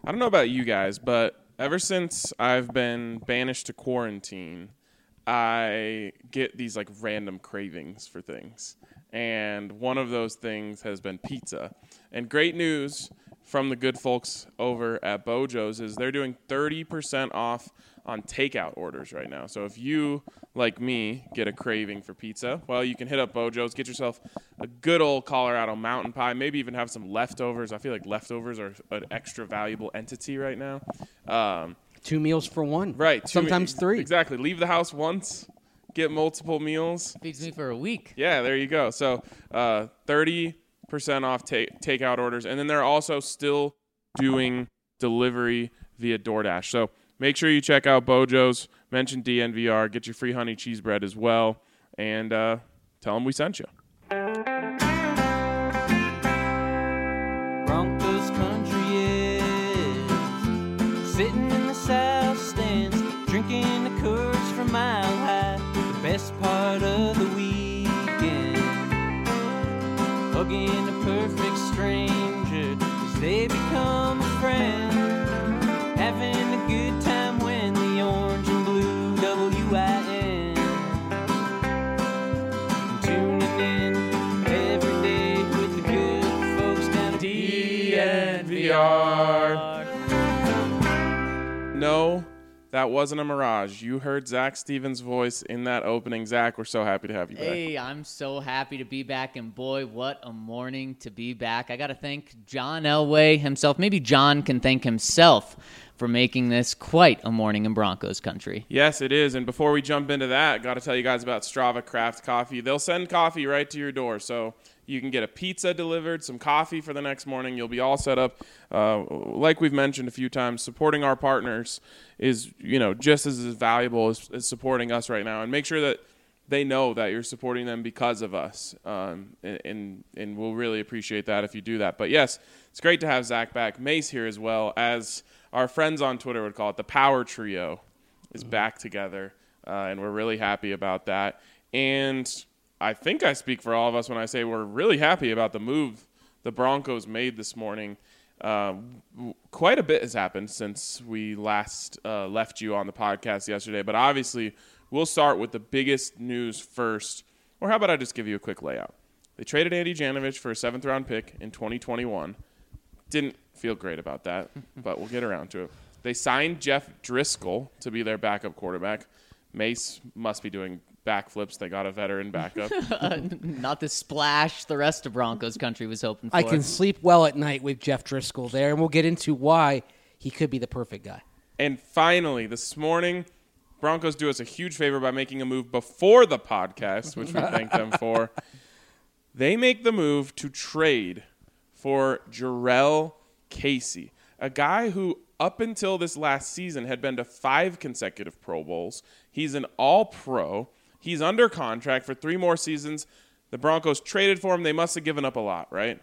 I don't know about you guys, but ever since I've been banished to quarantine, I get these like random cravings for things. And one of those things has been pizza. And great news from the good folks over at Bojo's is they're doing 30% off on takeout orders right now. So if you, like me, get a craving for pizza, well, you can hit up Bojo's, get yourself a good old Colorado mountain pie, maybe even have some leftovers. I feel like leftovers are an extra valuable entity right now. 2 meals for one. Right. Sometimes 3. Exactly. Leave the house once, get multiple meals. Feeds me for a week. Yeah, there you go. So 30% off takeout orders. And then they're also still doing delivery via DoorDash. So make sure you check out Bojo's. Mention DNVR. Get your free honey cheese bread as well. And tell them we sent you. Broncos country is sitting in the south stands, drinking the Coors from Mile High. The best part of the weekend, hugging a perfect stranger as they become a friend, having a good time when the orange and blue WIN, tuning in every day with the good folks down at DNVR. No, that wasn't a mirage. You heard Zach Stevens' voice in that opening. Zach, we're so happy to have you back. Hey, I'm so happy to be back, and boy, what a morning to be back. I got to thank John Elway himself. Maybe John can thank himself for making this quite a morning in Broncos country. Yes, it is. And before we jump into that, got to tell you guys about Strava Craft Coffee. They'll send coffee right to your door. So you can get a pizza delivered, some coffee for the next morning. You'll be all set up. Like we've mentioned a few times, supporting our partners is, just as valuable as supporting us right now. And make sure that they know that you're supporting them because of us. And we'll really appreciate that if you do that. But yes, it's great to have Zach back. Mace here as well, as our friends on Twitter would call it. The Power Trio is back together, and we're really happy about that. And I think I speak for all of us when I say we're really happy about the move the Broncos made this morning. Quite a bit has happened since we last left you on the podcast yesterday, but obviously we'll start with the biggest news first. Or how about I just give you a quick layout? They traded Andy Janovich for a 7th-round pick in 2021. Didn't feel great about that, but we'll get around to it. They signed Jeff Driscoll to be their backup quarterback. Mace must be doing backflips. They got a veteran backup. Not the splash the rest of Broncos country was hoping for. I can sleep well at night with Jeff Driscoll there, and we'll get into why he could be the perfect guy. And finally, this morning, Broncos do us a huge favor by making a move before the podcast, which we thank them for. They make the move to trade for Jurrell Casey, a guy who up until this last season had been to 5 consecutive Pro Bowls. He's an all-pro. He's under contract for 3 more seasons. The Broncos traded for him. They must have given up a lot, right?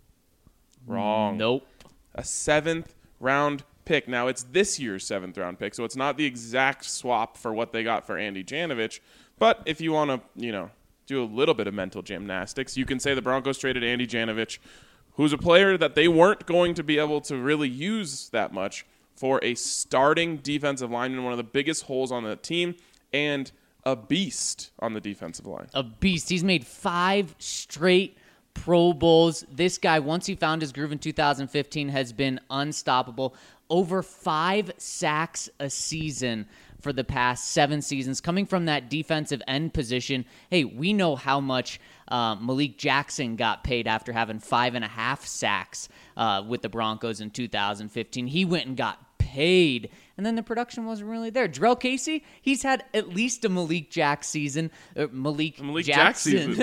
Wrong. Nope. A 7th-round pick. Now, it's this year's 7th-round pick, so it's not the exact swap for what they got for Andy Janovich. But if you want to, do a little bit of mental gymnastics, you can say the Broncos traded Andy Janovich, who's a player that they weren't going to be able to really use that much, for a starting defensive lineman, one of the biggest holes on the team, and a beast on the defensive line. A beast. He's made 5 straight Pro Bowls. This guy, once he found his groove in 2015, has been unstoppable. Over 5 sacks a season for the past 7 seasons, coming from that defensive end position. Hey, we know how much Malik Jackson got paid after having 5.5 sacks with the Broncos in 2015. He went and got paid, and then the production wasn't really there. Jurrell Casey, he's had at least a Malik Jack season. Malik Jack season.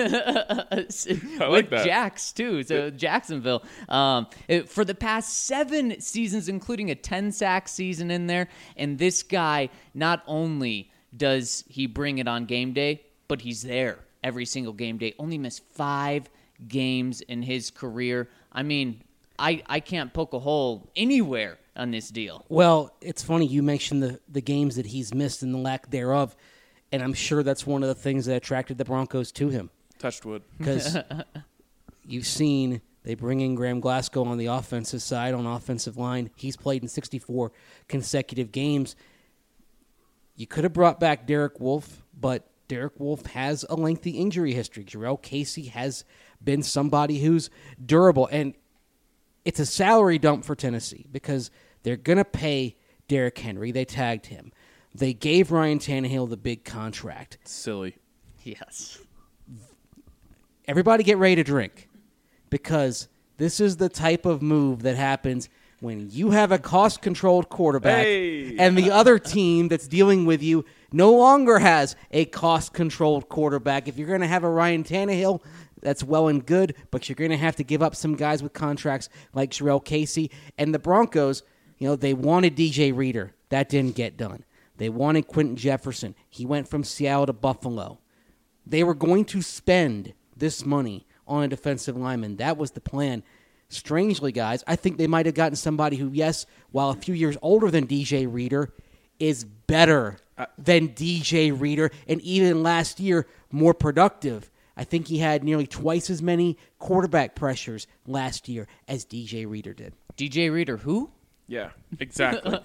I like that. Jacks, too, so Jacksonville. For the past 7 seasons, including a 10-sack season in there, and this guy, not only does he bring it on game day, but he's there every single game day. Only missed 5 games in his career. I mean, I can't poke a hole anywhere on this deal. Well, it's funny you mentioned the games that he's missed and the lack thereof, and I'm sure that's one of the things that attracted the Broncos to him. Touched wood. Because you've seen They bring in Graham Glasgow on the offensive side, on offensive line. He's played in 64 consecutive games. You could have brought back Derek Wolfe, but Derek Wolfe has a lengthy injury history. Jarrell Casey has been somebody who's durable. And it's a salary dump for Tennessee because they're going to pay Derrick Henry. They tagged him. They gave Ryan Tannehill the big contract. Silly. Yes. Everybody get ready to drink because this is the type of move that happens when you have a cost-controlled quarterback and the other team that's dealing with you no longer has a cost-controlled quarterback. If you're going to have a Ryan Tannehill, that's well and good, but you're going to have to give up some guys with contracts like Jarrell Casey. And the Broncos, they wanted DJ Reader. That didn't get done. They wanted Quentin Jefferson. He went from Seattle to Buffalo. They were going to spend this money on a defensive lineman. That was the plan. Strangely, guys, I think they might have gotten somebody who, yes, while a few years older than DJ Reader, is better than DJ Reader, and even last year, more productive. I think he had nearly twice as many quarterback pressures last year as DJ Reader did. DJ Reader who? Yeah, exactly.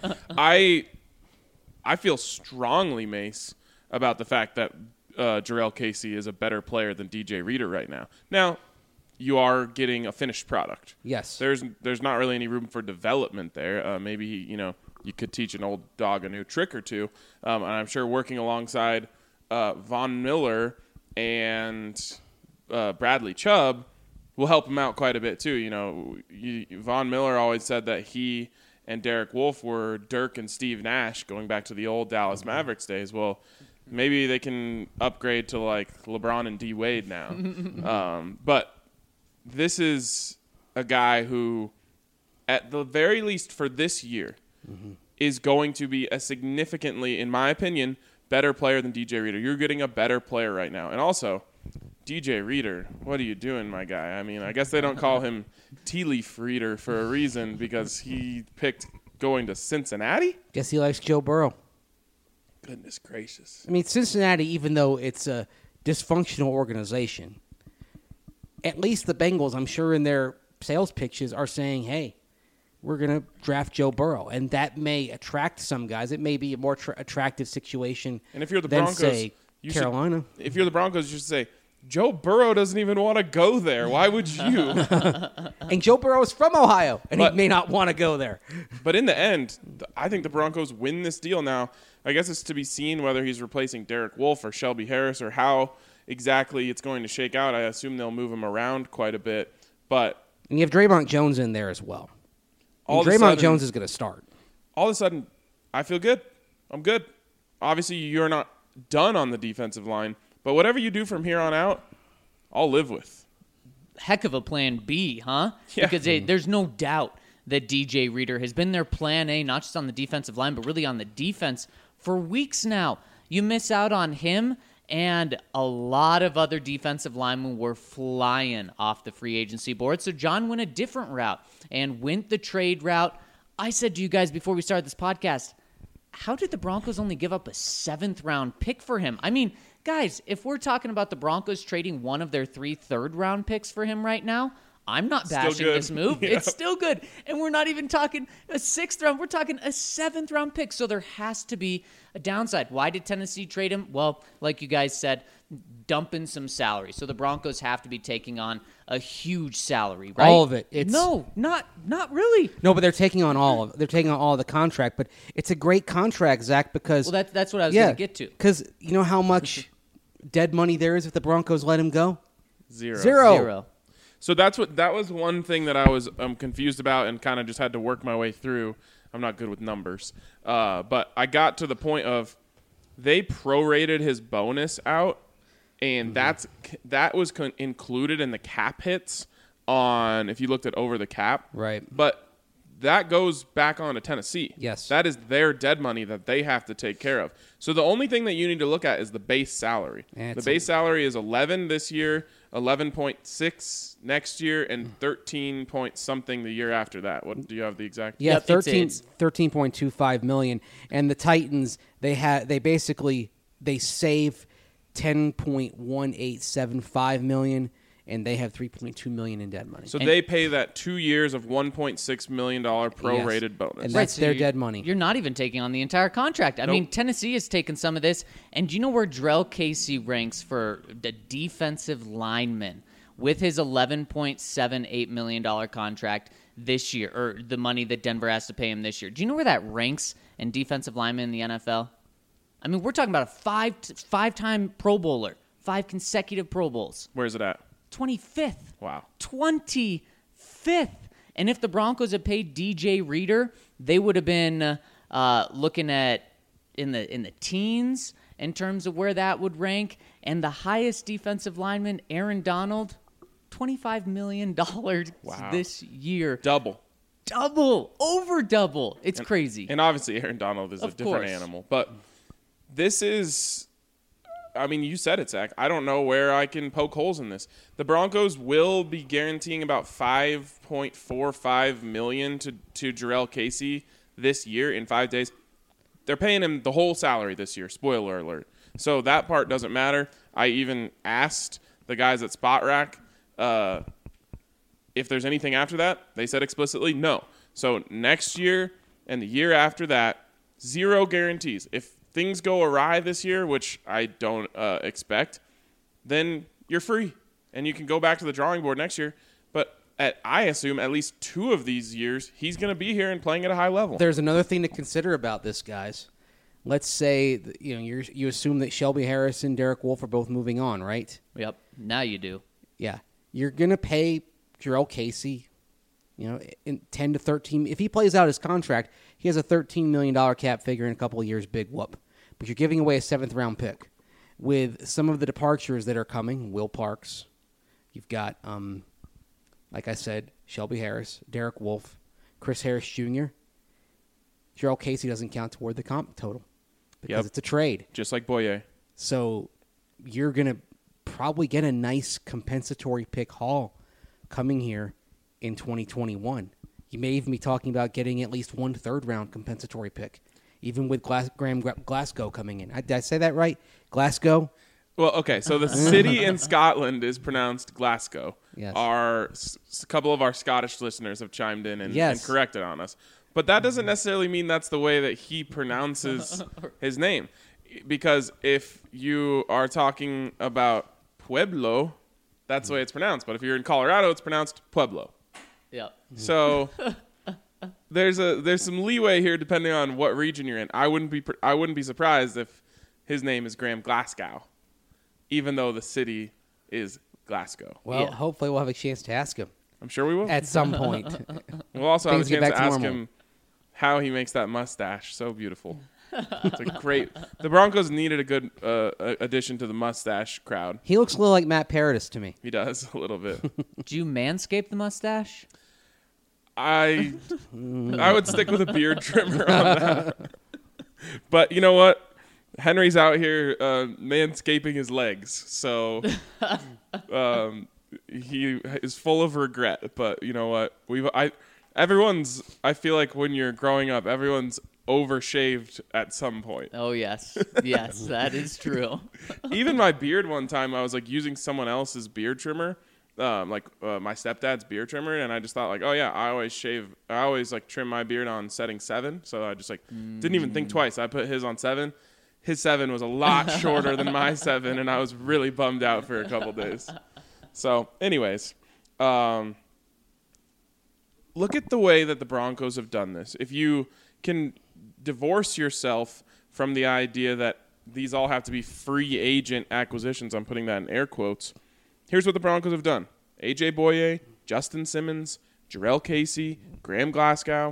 I feel strongly, Mace, about the fact that Jarrell Casey is a better player than DJ Reader right now. Now, you are getting a finished product. Yes. There's not really any room for development there. Maybe, you could teach an old dog a new trick or two. And I'm sure working alongside Von Miller and Bradley Chubb will help him out quite a bit too. Von Miller always said that he and Derek Wolfe were Dirk and Steve Nash going back to the old Dallas Mavericks days. Well, maybe they can upgrade to like LeBron and D Wade now. But this is a guy who, at the very least for this year, is going to be a significantly, in my opinion, better player than DJ Reader. You're getting a better player right now. And also, DJ Reader, what are you doing, my guy? I mean, I guess they don't call him Tea Leaf Reader for a reason because he picked going to Cincinnati? Guess he likes Joe Burrow. Goodness gracious. I mean, Cincinnati, even though it's a dysfunctional organization, at least the Bengals, I'm sure in their sales pitches, are saying, hey, we're going to draft Joe Burrow. And that may attract some guys. It may be a more attractive situation and if you're the than, Broncos, say, Carolina. If you're the Broncos, you should say, Joe Burrow doesn't even want to go there. Why would you? And Joe Burrow is from Ohio, and he may not want to go there. But in the end, I think the Broncos win this deal. Now, I guess it's to be seen whether he's replacing Derek Wolfe or Shelby Harris or how exactly it's going to shake out. I assume they'll move him around quite a bit. But and you have Draymond Jones in there as well. And Draymond Jones is going to start. All of a sudden, I feel good. I'm good. Obviously, you're not done on the defensive line, but whatever you do from here on out, I'll live with. Heck of a plan B, huh? Yeah. Because there's no doubt that DJ Reader has been their plan A, not just on the defensive line, but really on the defense for weeks now. You miss out on him, and a lot of other defensive linemen were flying off the free agency board. So John went a different route and went the trade route. I said to you guys before we started this podcast, how did the Broncos only give up a 7th-round pick for him? I mean, guys, if we're talking about the Broncos trading one of their 3 third-round picks for him right now, I'm not bashing this move. Yeah. It's still good. And we're not even talking a 6th round. We're talking a 7th-round pick. So there has to be a downside. Why did Tennessee trade him? Well, like you guys said, dumping some salary. So the Broncos have to be taking on a huge salary, right? All of it. No, not really. No, but they're taking on all of it. They're taking on all of the contract. But it's a great contract, Zach, because... Well, that's what I was going to get to. Because you know how much dead money there is if the Broncos let him go? Zero. So that was one thing that I was confused about and kind of just had to work my way through. I'm not good with numbers. But I got to the point of they prorated his bonus out, and that was included in the cap hits on if you looked at over the cap. Right. But that goes back on to Tennessee. Yes. That is their dead money that they have to take care of. So the only thing that you need to look at is the base salary. The base salary is 11 this year, 11.6 next year, and 13 point something the year after that. What do you have the exact? Yeah, Yep, 13.25 million. And the Titans, they save $10.1875 million, and they have $3.2 million in dead money. So they pay that 2 years of $1.6 million prorated bonus. And that's so their dead money. You're not even taking on the entire contract. I mean, Tennessee has taken some of this. And do you know where Jarrell Casey ranks for the defensive lineman with his $11.78 million contract this year, or the money that Denver has to pay him this year? Do you know where that ranks in defensive lineman in the NFL? I mean, we're talking about a five-time Pro Bowler, 5 consecutive Pro Bowls. Where's it at? 25th. Wow. 25th. And if the Broncos had paid DJ Reader, they would have been looking at in the teens in terms of where that would rank. And the highest defensive lineman, Aaron Donald, $25 million this year. Double. Over double. It's crazy. And obviously Aaron Donald is a different animal. But this is, I mean, you said it, Zach. I don't know where I can poke holes in this. The Broncos will be guaranteeing about $5.45 million to Jarrell Casey this year in 5 days. They're paying him the whole salary this year. Spoiler alert. So that part doesn't matter. I even asked the guys at Spot Rack if there's anything after that. They said explicitly no. So next year and the year after that, 0 guarantees. If things go awry this year, which I don't expect, then you're free and you can go back to the drawing board next year. But I assume at least 2 of these years, he's going to be here and playing at a high level. There's another thing to consider about this, guys. Let's say you assume that Shelby Harris and Derek Wolfe are both moving on, right? Yep. Now you do. Yeah. You're going to pay Jarrell Casey, in 10 to 13. If he plays out his contract, he has a $13 million cap figure in a couple of years, big whoop. But you're giving away a 7th-round pick. With some of the departures that are coming, Will Parks, you've got, like I said, Shelby Harris, Derek Wolfe, Chris Harris Jr. Jarrell Casey doesn't count toward the comp total because it's a trade. Just like Boye. So you're going to probably get a nice compensatory pick haul coming here in 2021. You may even be talking about getting at least 1 3rd-round compensatory pick, even with Graham Glasgow coming in. Did I say that right? Glasgow? Well, okay, so the city in Scotland is pronounced Glasgow. Yes. A couple of our Scottish listeners have chimed in and Yes. corrected on us. But that doesn't necessarily mean that's the way that he pronounces his name. Because if you are talking about Pueblo, that's the way it's pronounced. But if you're in Colorado, it's pronounced Pueblo. Yep. So there's some leeway here depending on what region you're in. I wouldn't be surprised if his name is Graham Glasgow, even though the city is Glasgow. Well, hopefully we'll have a chance to ask him I'm sure we will. at some point. We'll also have a Things get chance back to to ask normal. him how he makes that mustache so beautiful. It's a great. The Broncos needed a good addition to the mustache crowd. He looks a little like Matt Paradis to me. He does a little bit. Do you manscape the mustache? I would stick with a beard trimmer on that. But you know what? Henry's out here manscaping his legs, so he is full of regret. But you know what? I feel like when you're growing up, everyone's overshaved at some point. Oh, yes. Yes, that is true. Even my beard one time, I was like using someone else's beard trimmer, my stepdad's beard trimmer, and I just thought like, oh yeah, I always like trim my beard on setting 7, so I just like didn't even think twice. I put his on 7. His 7 was a lot shorter than my 7, and I was really bummed out for a couple days. So, anyways, look at the way that the Broncos have done this. If you can divorce yourself from the idea that these all have to be free agent acquisitions, I'm putting that in air quotes, here's what the Broncos have done. A.J. Boye, Justin Simmons, Jarrell Casey, Graham Glasgow,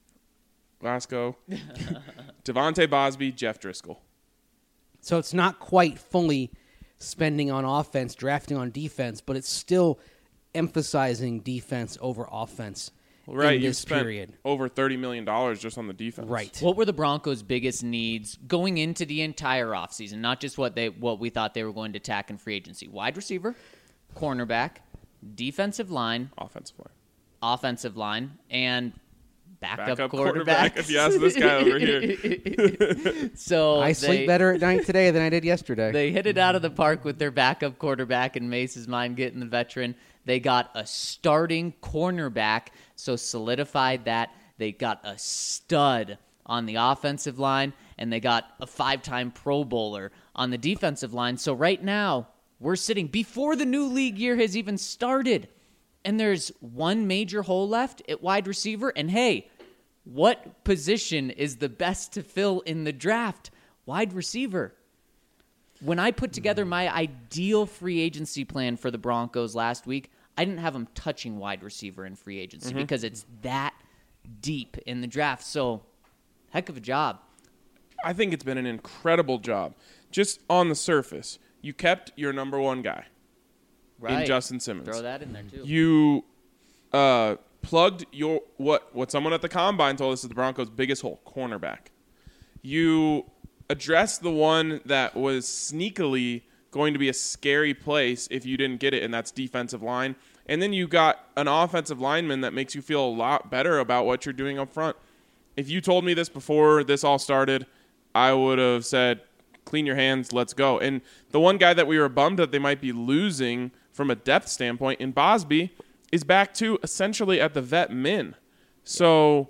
Devontae Bosby, Jeff Driscoll. So it's not quite fully spending on offense, drafting on defense, but it's still emphasizing defense over offense. Right, in you this spent period. over $30 million just on the defense. Right. What were the Broncos' biggest needs going into the entire offseason? Not just what we thought they were going to attack in free agency. Wide receiver, cornerback, defensive line, Offensive line. and backup quarterback. If you ask this guy over here. So I sleep better at night today than I did yesterday. They hit it out of the park with their backup quarterback in Mace's mind, getting the veteran. They got a starting cornerback, so solidified that. They got a stud on the offensive line, and they got a 5-time Pro Bowler on the defensive line. So right now, we're sitting before the new league year has even started, and there's one major hole left at wide receiver. And hey, what position is the best to fill in the draft? Wide receiver. When I put together my ideal free agency plan for the Broncos last week, I didn't have them touching wide receiver in free agency because it's that deep in the draft. So, heck of a job. I think it's been an incredible job. Just on the surface, you kept your number one guy in Justin Simmons. Throw that in there, too. You plugged your what someone at the Combine told us is the Broncos' biggest hole, cornerback. You addressed the one that was sneakily going to be a scary place if you didn't get it, and that's defensive line. And then you got an offensive lineman that makes you feel a lot better about what you're doing up front. If you told me this before this all started, I would have said, clean your hands, let's go. And the one guy that we were bummed that they might be losing from a depth standpoint in Bosby is back to essentially at the vet min. So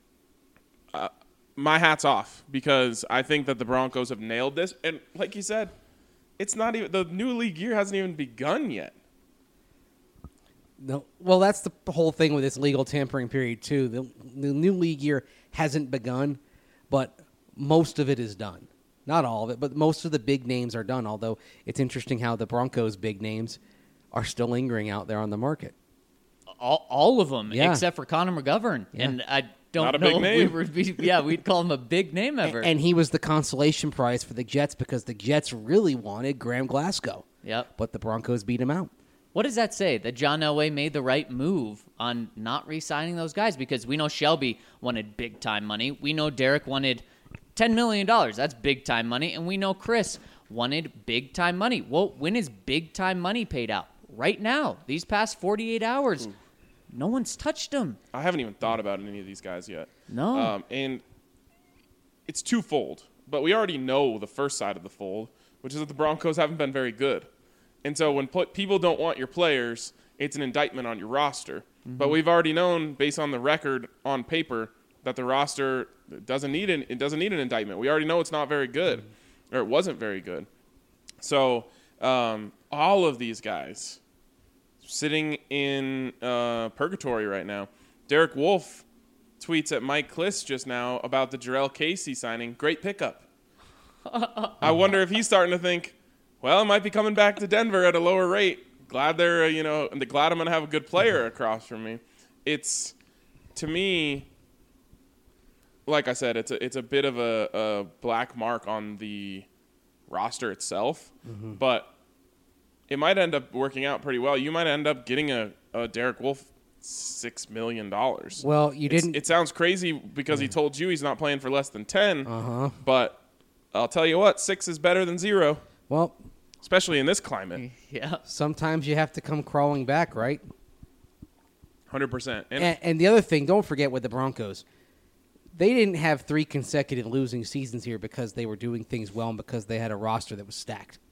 my hat's off, because I think that the Broncos have nailed this. And like you said, it's not even, the new league year hasn't even begun yet. No, well, that's the whole thing with this legal tampering period, too. The new league year hasn't begun, but most of it is done. Not all of it, but most of the big names are done, although it's interesting how the Broncos' big names are still lingering out there on the market. All of them, Yeah. except for Connor McGovern. Yeah. And I don't Not a know big if name. we'd call him a big name ever. And he was the consolation prize for the Jets because the Jets really wanted Graham Glasgow. Yep. But the Broncos beat him out. What does that say? That John Elway made the right move on not re-signing those guys? Because we know Shelby wanted big-time money. We know Derek wanted $10 million. That's big-time money. And we know Chris wanted big-time money. Well, when is big-time money paid out? Right now. These past 48 hours. No one's touched them. I haven't even thought about any of these guys yet. No. And it's twofold. But we already know the first side of the fold, which is that the Broncos haven't been very good. And so when people don't want your players, it's an indictment on your roster. Mm-hmm. But we've already known, based on the record on paper, that the roster doesn't need an indictment. We already know it's not very good, or it wasn't very good. So all of these guys sitting in purgatory right now. Derek Wolfe tweets at Mike Kliss just now about the Jarrell Casey signing. Great pickup. I wonder if he's starting to think, well, I might be coming back to Denver at a lower rate. Glad they're, glad I'm going to have a good player across from me. It's, to me, like I said, it's a bit of a black mark on the roster itself, but it might end up working out pretty well. You might end up getting a Derek Wolfe $6 million. Well, you didn't. It sounds crazy because he told you he's not playing for less than 10, but I'll tell you what, 6 is better than 0. Well, especially in this climate. Yeah. sometimes you have to come crawling back, right? 100%. And the other thing, don't forget with the Broncos, they didn't have 3 consecutive losing seasons here because they were doing things well and because they had a roster that was stacked.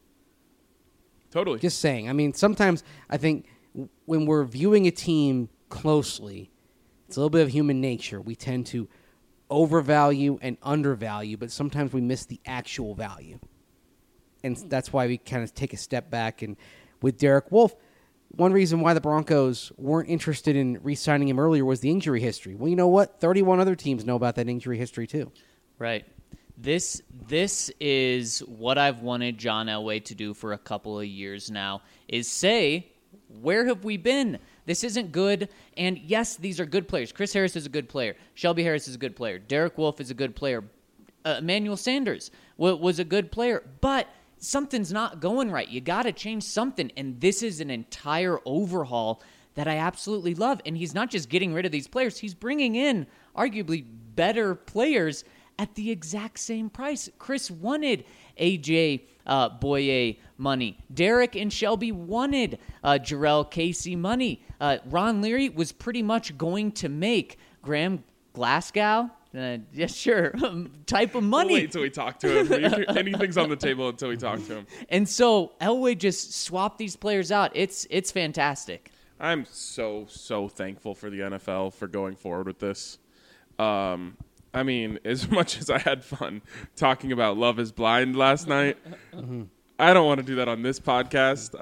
Totally. Just saying. I mean, sometimes I think when we're viewing a team closely, it's a little bit of human nature. We tend to overvalue and undervalue, but sometimes we miss the actual value. And that's why we kind of take a step back. And with Derek Wolfe, one reason why the Broncos weren't interested in re-signing him earlier was the injury history. Well, you know what? 31 other teams know about that injury history too. Right. This is what I've wanted John Elway to do for a couple of years now, is say, where have we been? This isn't good. And yes, these are good players. Chris Harris is a good player. Shelby Harris is a good player. Derek Wolfe is a good player. Emmanuel Sanders was a good player. But something's not going right. You got to change something. And this is an entire overhaul that I absolutely love. And he's not just getting rid of these players. He's bringing in arguably better players at the exact same price. Chris wanted A.J. Boye money. Derek and Shelby wanted Jarrell Casey money. Ron Leary was pretty much going to make Graham Glasgow? Yeah, sure. Type of money. We'll wait till we talk to him. Anything's on the table until we talk to him. And so Elway just swapped these players out. It's fantastic. I'm so thankful for the NFL for going forward with this. I mean, as much as I had fun talking about Love is Blind last night, I don't want to do that on this podcast.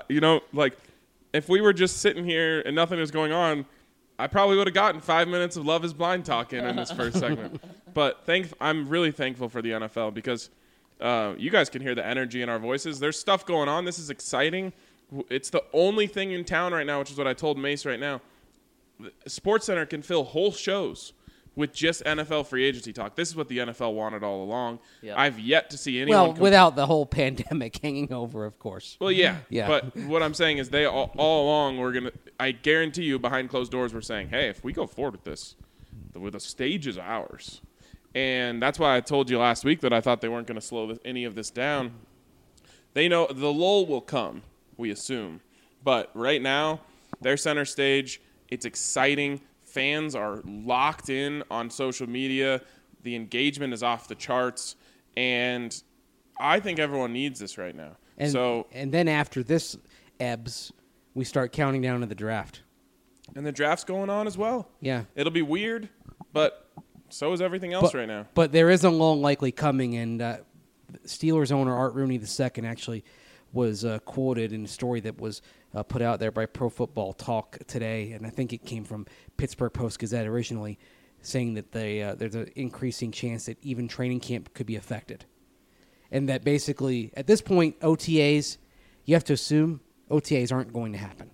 If we were just sitting here and nothing was going on, I probably would have gotten 5 minutes of Love is Blind talking in this first segment. But I'm really thankful for the NFL because you guys can hear the energy in our voices. There's stuff going on. This is exciting. It's the only thing in town right now, which is what I told Mace right now. SportsCenter can fill whole shows with just NFL free agency talk. This is what the NFL wanted all along. Yep. I've yet to see anyone... Well, without the whole pandemic hanging over, of course. Well, yeah. But what I'm saying is they all along were going to... I guarantee you, behind closed doors, we're saying, hey, if we go forward with this, the stage is ours. And that's why I told you last week that I thought they weren't going to slow any of this down. They know the lull will come, we assume. But right now, they're center stage. It's exciting. Fans are locked in on social media. The engagement is off the charts. And I think everyone needs this right now. And then after this ebbs, we start counting down to the draft. And the draft's going on as well. Yeah. It'll be weird, but so is everything else right now. But there is a lull likely coming, and Steelers owner Art Rooney II actually was quoted in a story that was put out there by Pro Football Talk today, and I think it came from Pittsburgh Post-Gazette originally, saying that there's an increasing chance that even training camp could be affected. And that basically, at this point, OTAs, you have to assume OTAs aren't going to happen.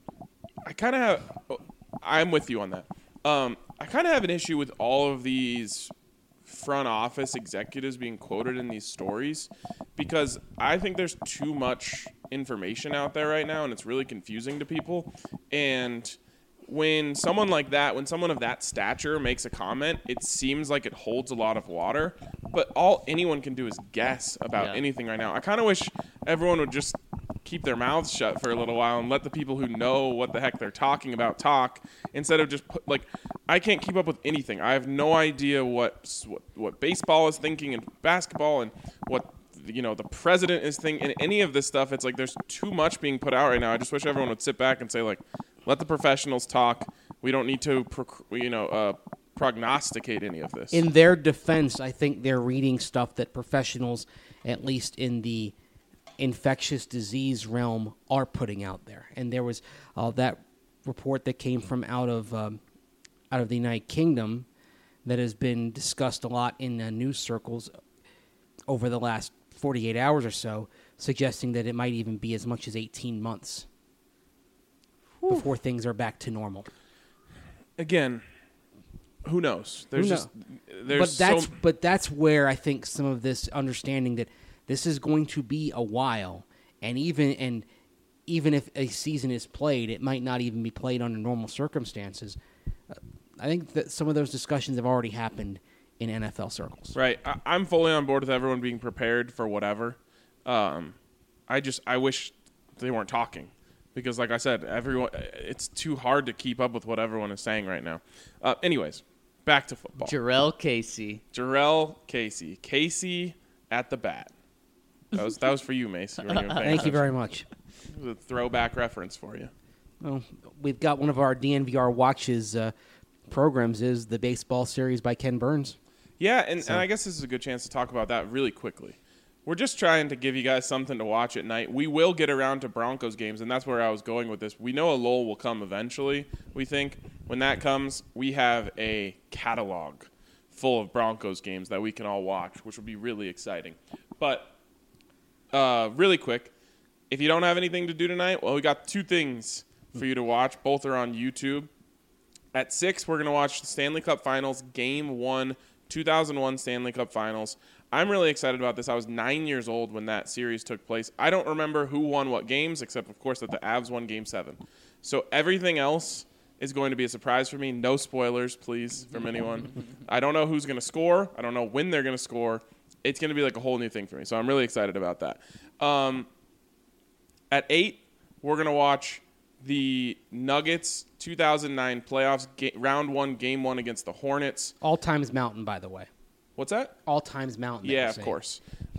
I'm with you on that. I kind of have an issue with all of these front office executives being quoted in these stories because I think there's too much information out there right now and it's really confusing to people. And when someone like that, when someone of that stature makes a comment, it seems like it holds a lot of water, but all anyone can do is guess about anything right now. I kind of wish everyone would just keep their mouths shut for a little while and let the people who know what the heck they're talking about talk instead of just I can't keep up with anything. I have no idea what baseball is thinking and basketball and what the president is thinking and any of this stuff. It's like there's too much being put out right now. I just wish everyone would sit back and say let the professionals talk. We don't need to prognosticate any of this. In their defense, I think they're reading stuff that professionals, at least in the infectious disease realm, are putting out there. And there was that report that came from out of the United Kingdom that has been discussed a lot in news circles over the last 48 hours or so, suggesting that it might even be as much as 18 months before things are back to normal. Again, who knows? But that's where I think some of this understanding that this is going to be a while, and even if a season is played, it might not even be played under normal circumstances. I think that some of those discussions have already happened in NFL circles. Right. I'm fully on board with everyone being prepared for whatever. I wish they weren't talking because, like I said, it's too hard to keep up with what everyone is saying right now. Anyways, back to football. Jurrell Casey. Casey at the bat. That was for you, Mace. Thank you very much. A throwback reference for you. Well, we've got one of our DNVR watches programs is the baseball series by Ken Burns. Yeah, and I guess this is a good chance to talk about that really quickly. We're just trying to give you guys something to watch at night. We will get around to Broncos games, and that's where I was going with this. We know a lull will come eventually, we think. When that comes, we have a catalog full of Broncos games that we can all watch, which will be really exciting. But really quick, if you don't have anything to do tonight, well, we got two things for you to watch. Both are on YouTube. At 6, we're going to watch the Stanley Cup Finals, Game 1, 2001 Stanley Cup Finals. I'm really excited about this. I was 9 years old when that series took place. I don't remember who won what games, except, of course, that the Avs won Game 7. So everything else is going to be a surprise for me. No spoilers, please, from anyone. I don't know who's going to score. I don't know when they're going to score. It's going to be like a whole new thing for me. So I'm really excited about that. At 8, we're going to watch the Nuggets 2009 playoffs, round 1, game 1 against the Hornets. All times Mountain, by the way. What's that? All times Mountain. Yeah, of course.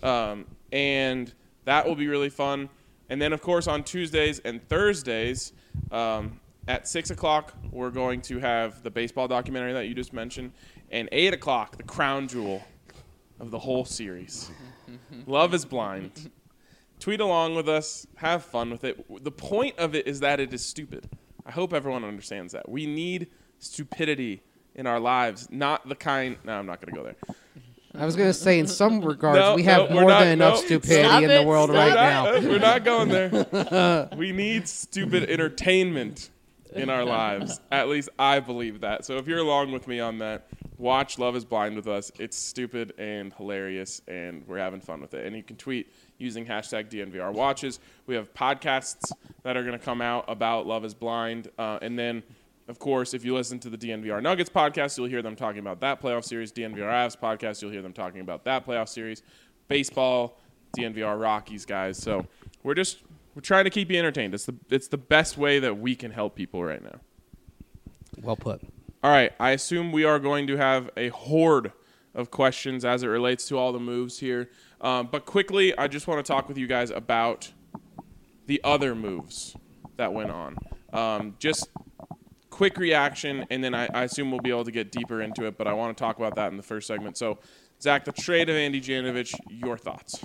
And that will be really fun. And then, of course, on Tuesdays and Thursdays at 6 o'clock, we're going to have the baseball documentary that you just mentioned. And 8 o'clock, the crown jewel of the whole series. Love is Blind. Tweet along with us. Have fun with it. The point of it is that it is stupid. I hope everyone understands that. We need stupidity in our lives, not the kind... No, I'm not going to go there. I was going to say, in some regards, we have more than enough stupidity in the world right now. We're not going there. We need stupid entertainment in our lives. At least I believe that. So if you're along with me on that, watch Love is Blind with us. It's stupid and hilarious, and we're having fun with it. And you can tweet using hashtag DNVR Watches. We have podcasts that are going to come out about Love is Blind. And then, of course, if you listen to the DNVR Nuggets podcast, you'll hear them talking about that playoff series. DNVR Avs podcast, you'll hear them talking about that playoff series. Baseball, DNVR Rockies, guys. So we're trying to keep you entertained. It's the best way that we can help people right now. Well put. All right, I assume we are going to have a horde of questions as it relates to all the moves here. But quickly, I just want to talk with you guys about the other moves that went on. Just quick reaction, and then I assume we'll be able to get deeper into it, but I want to talk about that in the first segment. So, Zach, the trade of Andy Janovich, your thoughts?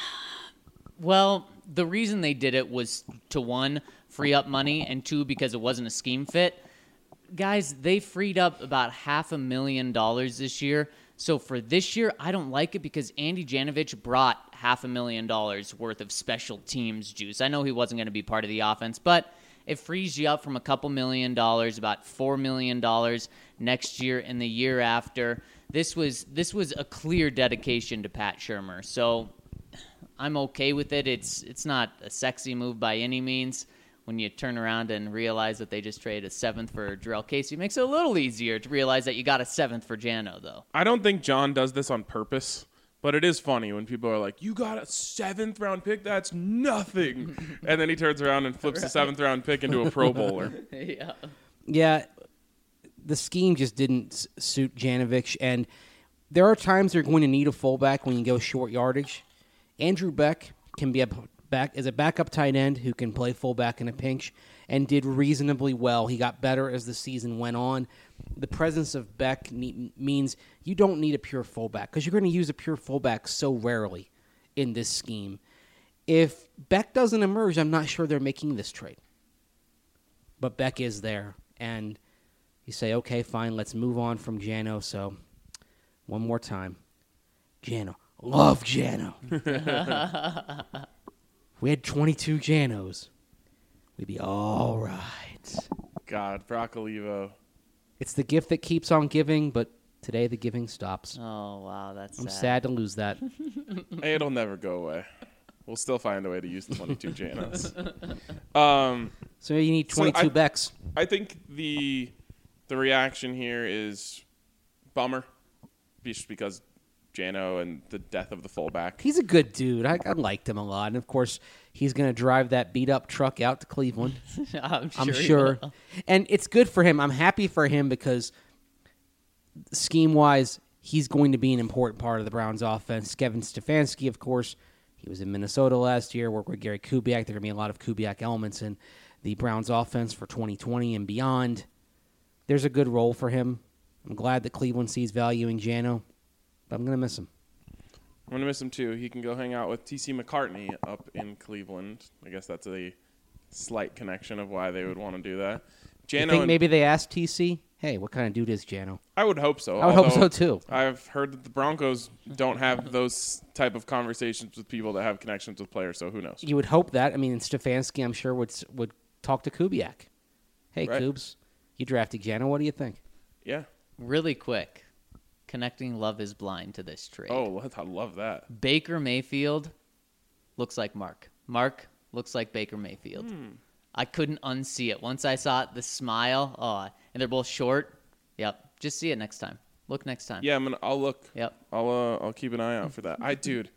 Well, the reason they did it was to, 1, free up money, and 2, because it wasn't a scheme fit. Guys, they freed up about $500,000 this year. So for this year, I don't like it because Andy Janovich brought $500,000 worth of special teams juice. I know he wasn't going to be part of the offense, but it frees you up from a couple $1 million, about $4 million next year and the year after. This was a clear dedication to Pat Shurmur. So I'm okay with it. It's not a sexy move by any means. When you turn around and realize that they just traded a 7th for Jarrell Casey, it makes it a little easier to realize that you got a 7th for Jano, though. I don't think John does this on purpose, but it is funny when people are like, you got a 7th round pick? That's nothing. And then he turns around and flips the 7th round pick into a Pro Bowler. Yeah, the scheme just didn't suit Janovich, and there are times you're going to need a fullback when you go short yardage. Andrew Beck can be a backup tight end who can play fullback in a pinch and did reasonably well. He got better as the season went on. The presence of Beck means you don't need a pure fullback because you're going to use a pure fullback so rarely in this scheme. If Beck doesn't emerge, I'm not sure they're making this trade. But Beck is there, and you say, okay, fine, let's move on from Jano. So one more time. Jano. Love Jano. We had 22 Janos, we'd be all right. God, Brock Olivo. It's the gift that keeps on giving, but today the giving stops. Oh, wow, that's I'm sad to lose that. It'll never go away. We'll still find a way to use the 22 Janos. So you need 22 Becks. I think the reaction here is bummer, just because Jano and the death of the fullback. He's a good dude. I liked him a lot. And, of course, he's going to drive that beat-up truck out to Cleveland. I'm sure. And it's good for him. I'm happy for him because scheme-wise, he's going to be an important part of the Browns' offense. Kevin Stefanski, of course, he was in Minnesota last year, worked with Gary Kubiak. There are going to be a lot of Kubiak elements in the Browns' offense for 2020 and beyond. There's a good role for him. I'm glad that Cleveland sees value in Jano. But I'm going to miss him. I'm going to miss him, too. He can go hang out with T.C. McCartney up in Cleveland. I guess that's a slight connection of why they would want to do that. You think maybe they asked T.C., hey, what kind of dude is Jano? I would hope so. I would hope so, too. I've heard that the Broncos don't have those type of conversations with people that have connections with players, so who knows? You would hope that. I mean, Stefanski, I'm sure, would talk to Kubiak. Hey, right. Kubes, you drafted Jano. What do you think? Yeah. Really quick. Connecting Love is Blind to this trade. Oh, I love that. Baker Mayfield looks like Mark. Mark looks like Baker Mayfield. I couldn't unsee it. Once I saw it, the smile. Oh, and they're both short. Yep. Just see it next time. Look next time. Yeah, I'll look. Yep. I'll keep an eye out for that. Dude,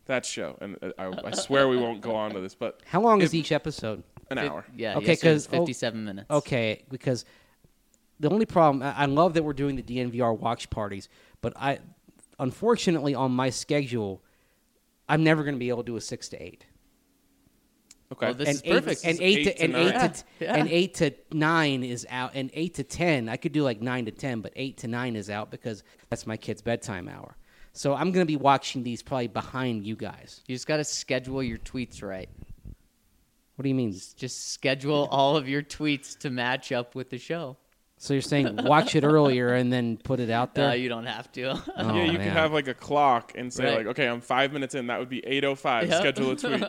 that show, and I swear we won't go on to this, but How long is each episode? an hour. Yeah. Okay, Okay. Because 'cause- 57 minutes. Okay, because the only problem, I love that we're doing the DNVR watch parties, but unfortunately, on my schedule, I'm never going to be able to do a 6 to 8. Okay. Well, this is perfect. And Eight to nine. and 8 to 9 is out, and 8 to 10 I could do like 9 to 10, but 8 to 9 is out because that's my kid's bedtime hour. So I'm going to be watching these probably behind you guys. You just got to schedule your tweets right. What do you mean? Just schedule all of your tweets to match up with the show. So you're saying watch it earlier and then put it out there? No, you don't have to. Oh, Yeah, you man. could have like a clock and say Right. like, okay, I'm 5 minutes in. That would be 8:05. Yep. Schedule a tweet.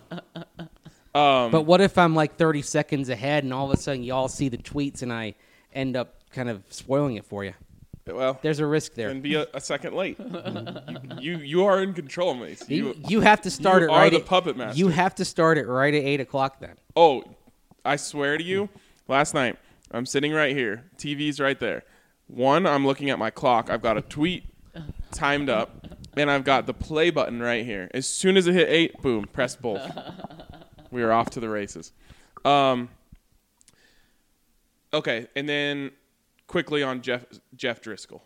But what if I'm like 30 seconds ahead and all of a sudden y'all see the tweets and I end up kind of spoiling it for you? Well, There's a risk there. and be a second late. you are in control, Mace. You have to start you it are right the at, puppet master. You have to start it right at 8 o'clock then. Oh, I swear to you, last night I'm sitting right here. TV's right there. One, I'm looking at my clock. I've got a tweet timed up, and I've got the play button right here. As soon as it hit 8, boom, press both. We are off to the races. Okay, and then quickly on Jeff Driscoll.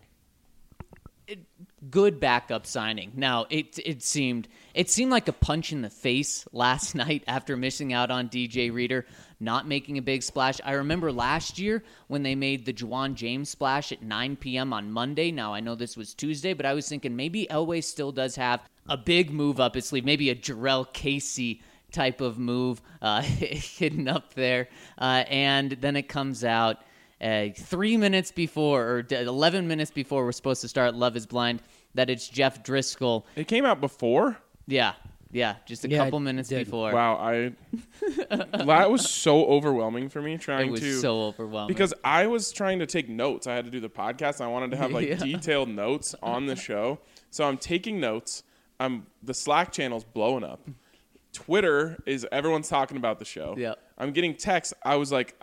Good backup signing. Now it seemed like a punch in the face last night after missing out on DJ Reader, not making a big splash. I remember last year when they made the Juwan James splash at 9 p.m. on Monday. Now I know this was Tuesday, but I was thinking maybe Elway still does have a big move up his sleeve, maybe a Jarrell Casey type of move hidden up there, and then it comes out. 3 minutes before, or 11 minutes before we're supposed to start Love is Blind, that it's Jeff Driscoll. It came out before? Yeah, just a Yeah, couple it minutes did. before. Wow, that was so overwhelming for me trying It was to so overwhelming. because I was trying to take notes. I had to do the podcast. And I wanted to have like Yeah. detailed notes on the show, so I'm taking notes. The Slack channel's blowing up. Twitter is everyone's talking about the show. Yep. I'm getting texts. It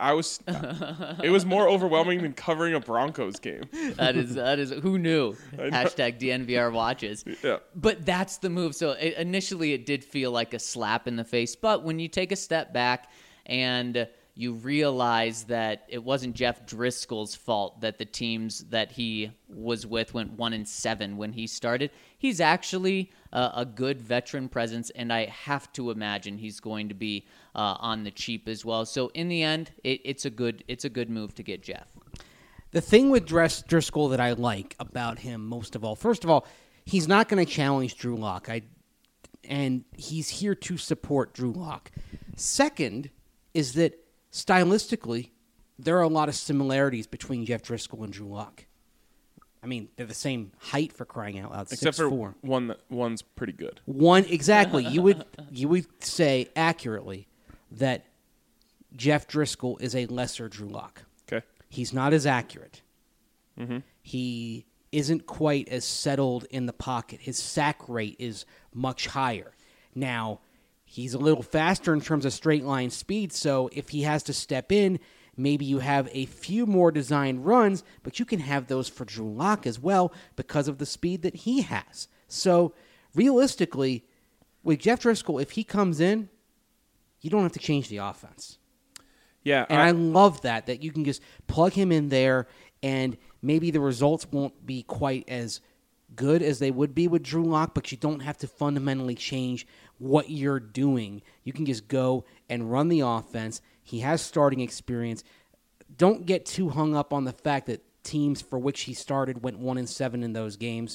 was more overwhelming than covering a Broncos game. that is who knew? Hashtag DNVR watches. Yeah. But that's the move. So initially it did feel like a slap in the face. But when you take a step back and you realize that it wasn't Jeff Driscoll's fault that the teams that he was with went 1-7 when he started, he's actually a good veteran presence, and I have to imagine he's going to be on the cheap as well. So in the end, it's a good move to get Jeff. The thing with Driscoll that I like about him most of all, first of all, he's not going to challenge Drew Lock, and he's here to support Drew Lock. Second is that stylistically, there are a lot of similarities between Jeff Driscoll and Drew Lock. I mean, they're the same height for crying out loud. Except 6'4". for one's pretty good. One exactly. You would say accurately that Jeff Driscoll is a lesser Drew Lock. Okay. He's not as accurate. Mm-hmm. He isn't quite as settled in the pocket. His sack rate is much higher. Now, he's a little faster in terms of straight line speed, so if he has to step in, maybe you have a few more designed runs, but you can have those for Drew Lock as well because of the speed that he has. So, realistically, with Jeff Driscoll, if he comes in, you don't have to change the offense. Yeah. And I love that you can just plug him in there, and maybe the results won't be quite as good as they would be with Drew Lock, but you don't have to fundamentally change what you're doing. You can just go and run the offense. He has starting experience. Don't get too hung up on the fact that teams for which he started went 1-7 in those games.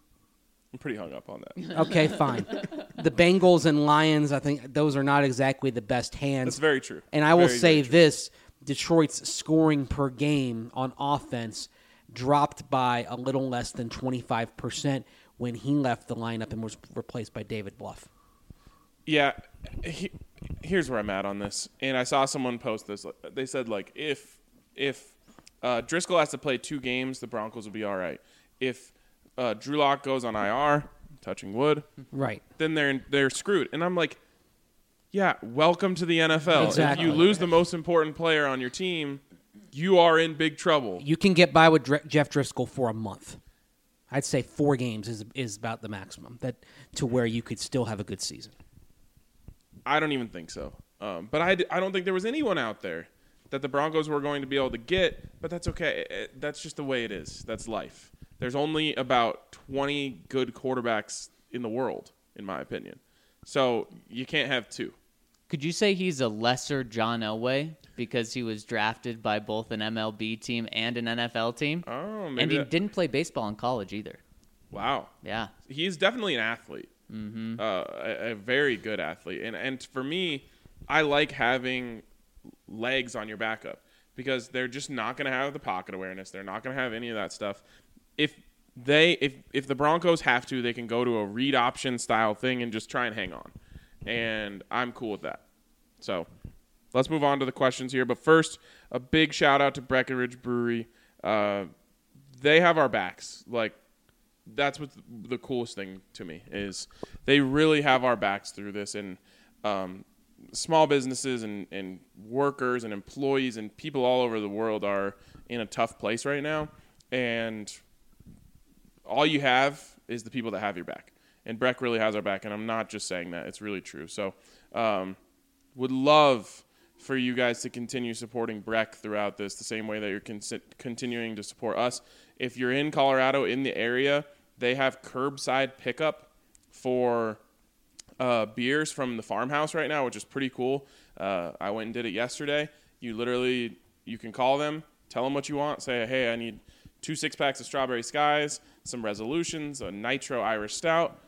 I'm pretty hung up on that. Okay, fine. The Bengals and Lions, I think those are not exactly the best hands. That's very true. And I will Very, say very true. this, Detroit's scoring per game on offense dropped by a little less than 25% when he left the lineup and was replaced by David Bluff. Yeah, here's where I'm at on this. And I saw someone post this. They said, like, if Driscoll has to play 2 games, the Broncos will be all right. If Drew Lock goes on IR, touching wood, Right. then they're screwed. And I'm like, yeah, welcome to the NFL. Exactly. If you lose the most important player on your team, you are in big trouble. You can get by with Jeff Driscoll for a month. I'd say 4 games is about the maximum to where you could still have a good season. I don't even think so. But I don't think there was anyone out there that the Broncos were going to be able to get, but that's okay. That's just the way it is. That's life. There's only about 20 good quarterbacks in the world, in my opinion. So you can't have 2. Could you say he's a lesser John Elway because he was drafted by both an MLB team and an NFL team? Oh, maybe. And he didn't play baseball in college either. Wow. Yeah. He's definitely an athlete. Mm-hmm. A very good athlete. And for me, I like having legs on your backup because they're just not going to have the pocket awareness. They're not going to have any of that stuff. If the Broncos have to, they can go to a read option style thing and just try and hang on. And I'm cool with that. So let's move on to the questions here. But first, a big shout out to Breckenridge Brewery. They have our backs. Like, that's what the coolest thing to me is. They really have our backs through this. And small businesses and workers and employees and people all over the world are in a tough place right now. And all you have is the people that have your back. And Breck really has our back, and I'm not just saying that. It's really true. So would love for you guys to continue supporting Breck throughout this the same way that you're continuing to support us. If you're in Colorado, in the area, they have curbside pickup for beers from the farmhouse right now, which is pretty cool. I went and did it yesterday. You can call them, tell them what you want, say, hey, I need 2 6-packs of Strawberry Skies, some Resolutions, a Nitro Irish Stout,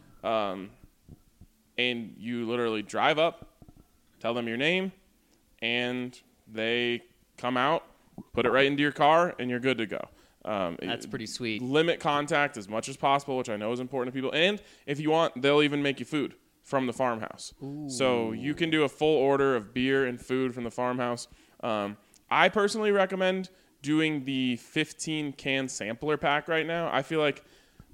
and you literally drive up, tell them your name, and they come out, put it right into your car, and you're good to go. That's pretty sweet. Limit contact as much as possible, which I know is important to people. And if you want, they'll even make you food from the farmhouse. Ooh. So you can do a full order of beer and food from the farmhouse. I personally recommend doing the 15-can sampler pack right now. I feel like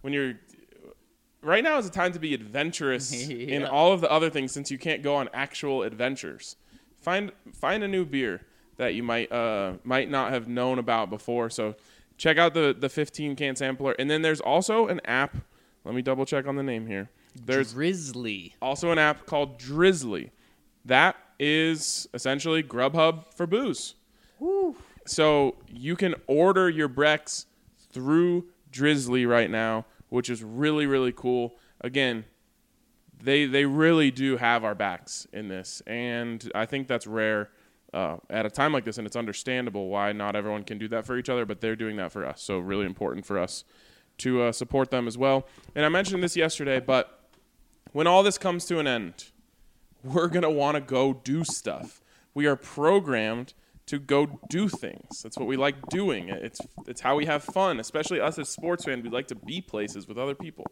right now is the time to be adventurous in all of the other things since you can't go on actual adventures. Find a new beer that you might not have known about before. So check out the 15-can sampler. And then there's also an app. Let me double check on the name here. There's Drizzly. Also an app called Drizzly. That is essentially Grubhub for booze. Woo. So you can order your Brecks through Drizzly right now, which is really, really cool. Again, they really do have our backs in this, and I think that's rare at a time like this, and it's understandable why not everyone can do that for each other, but they're doing that for us, so really important for us to support them as well. And I mentioned this yesterday, but when all this comes to an end, we're going to want to go do stuff. We are programmed to go do things. That's what we like doing. It's how we have fun, especially us as sports fans. We like to be places with other people.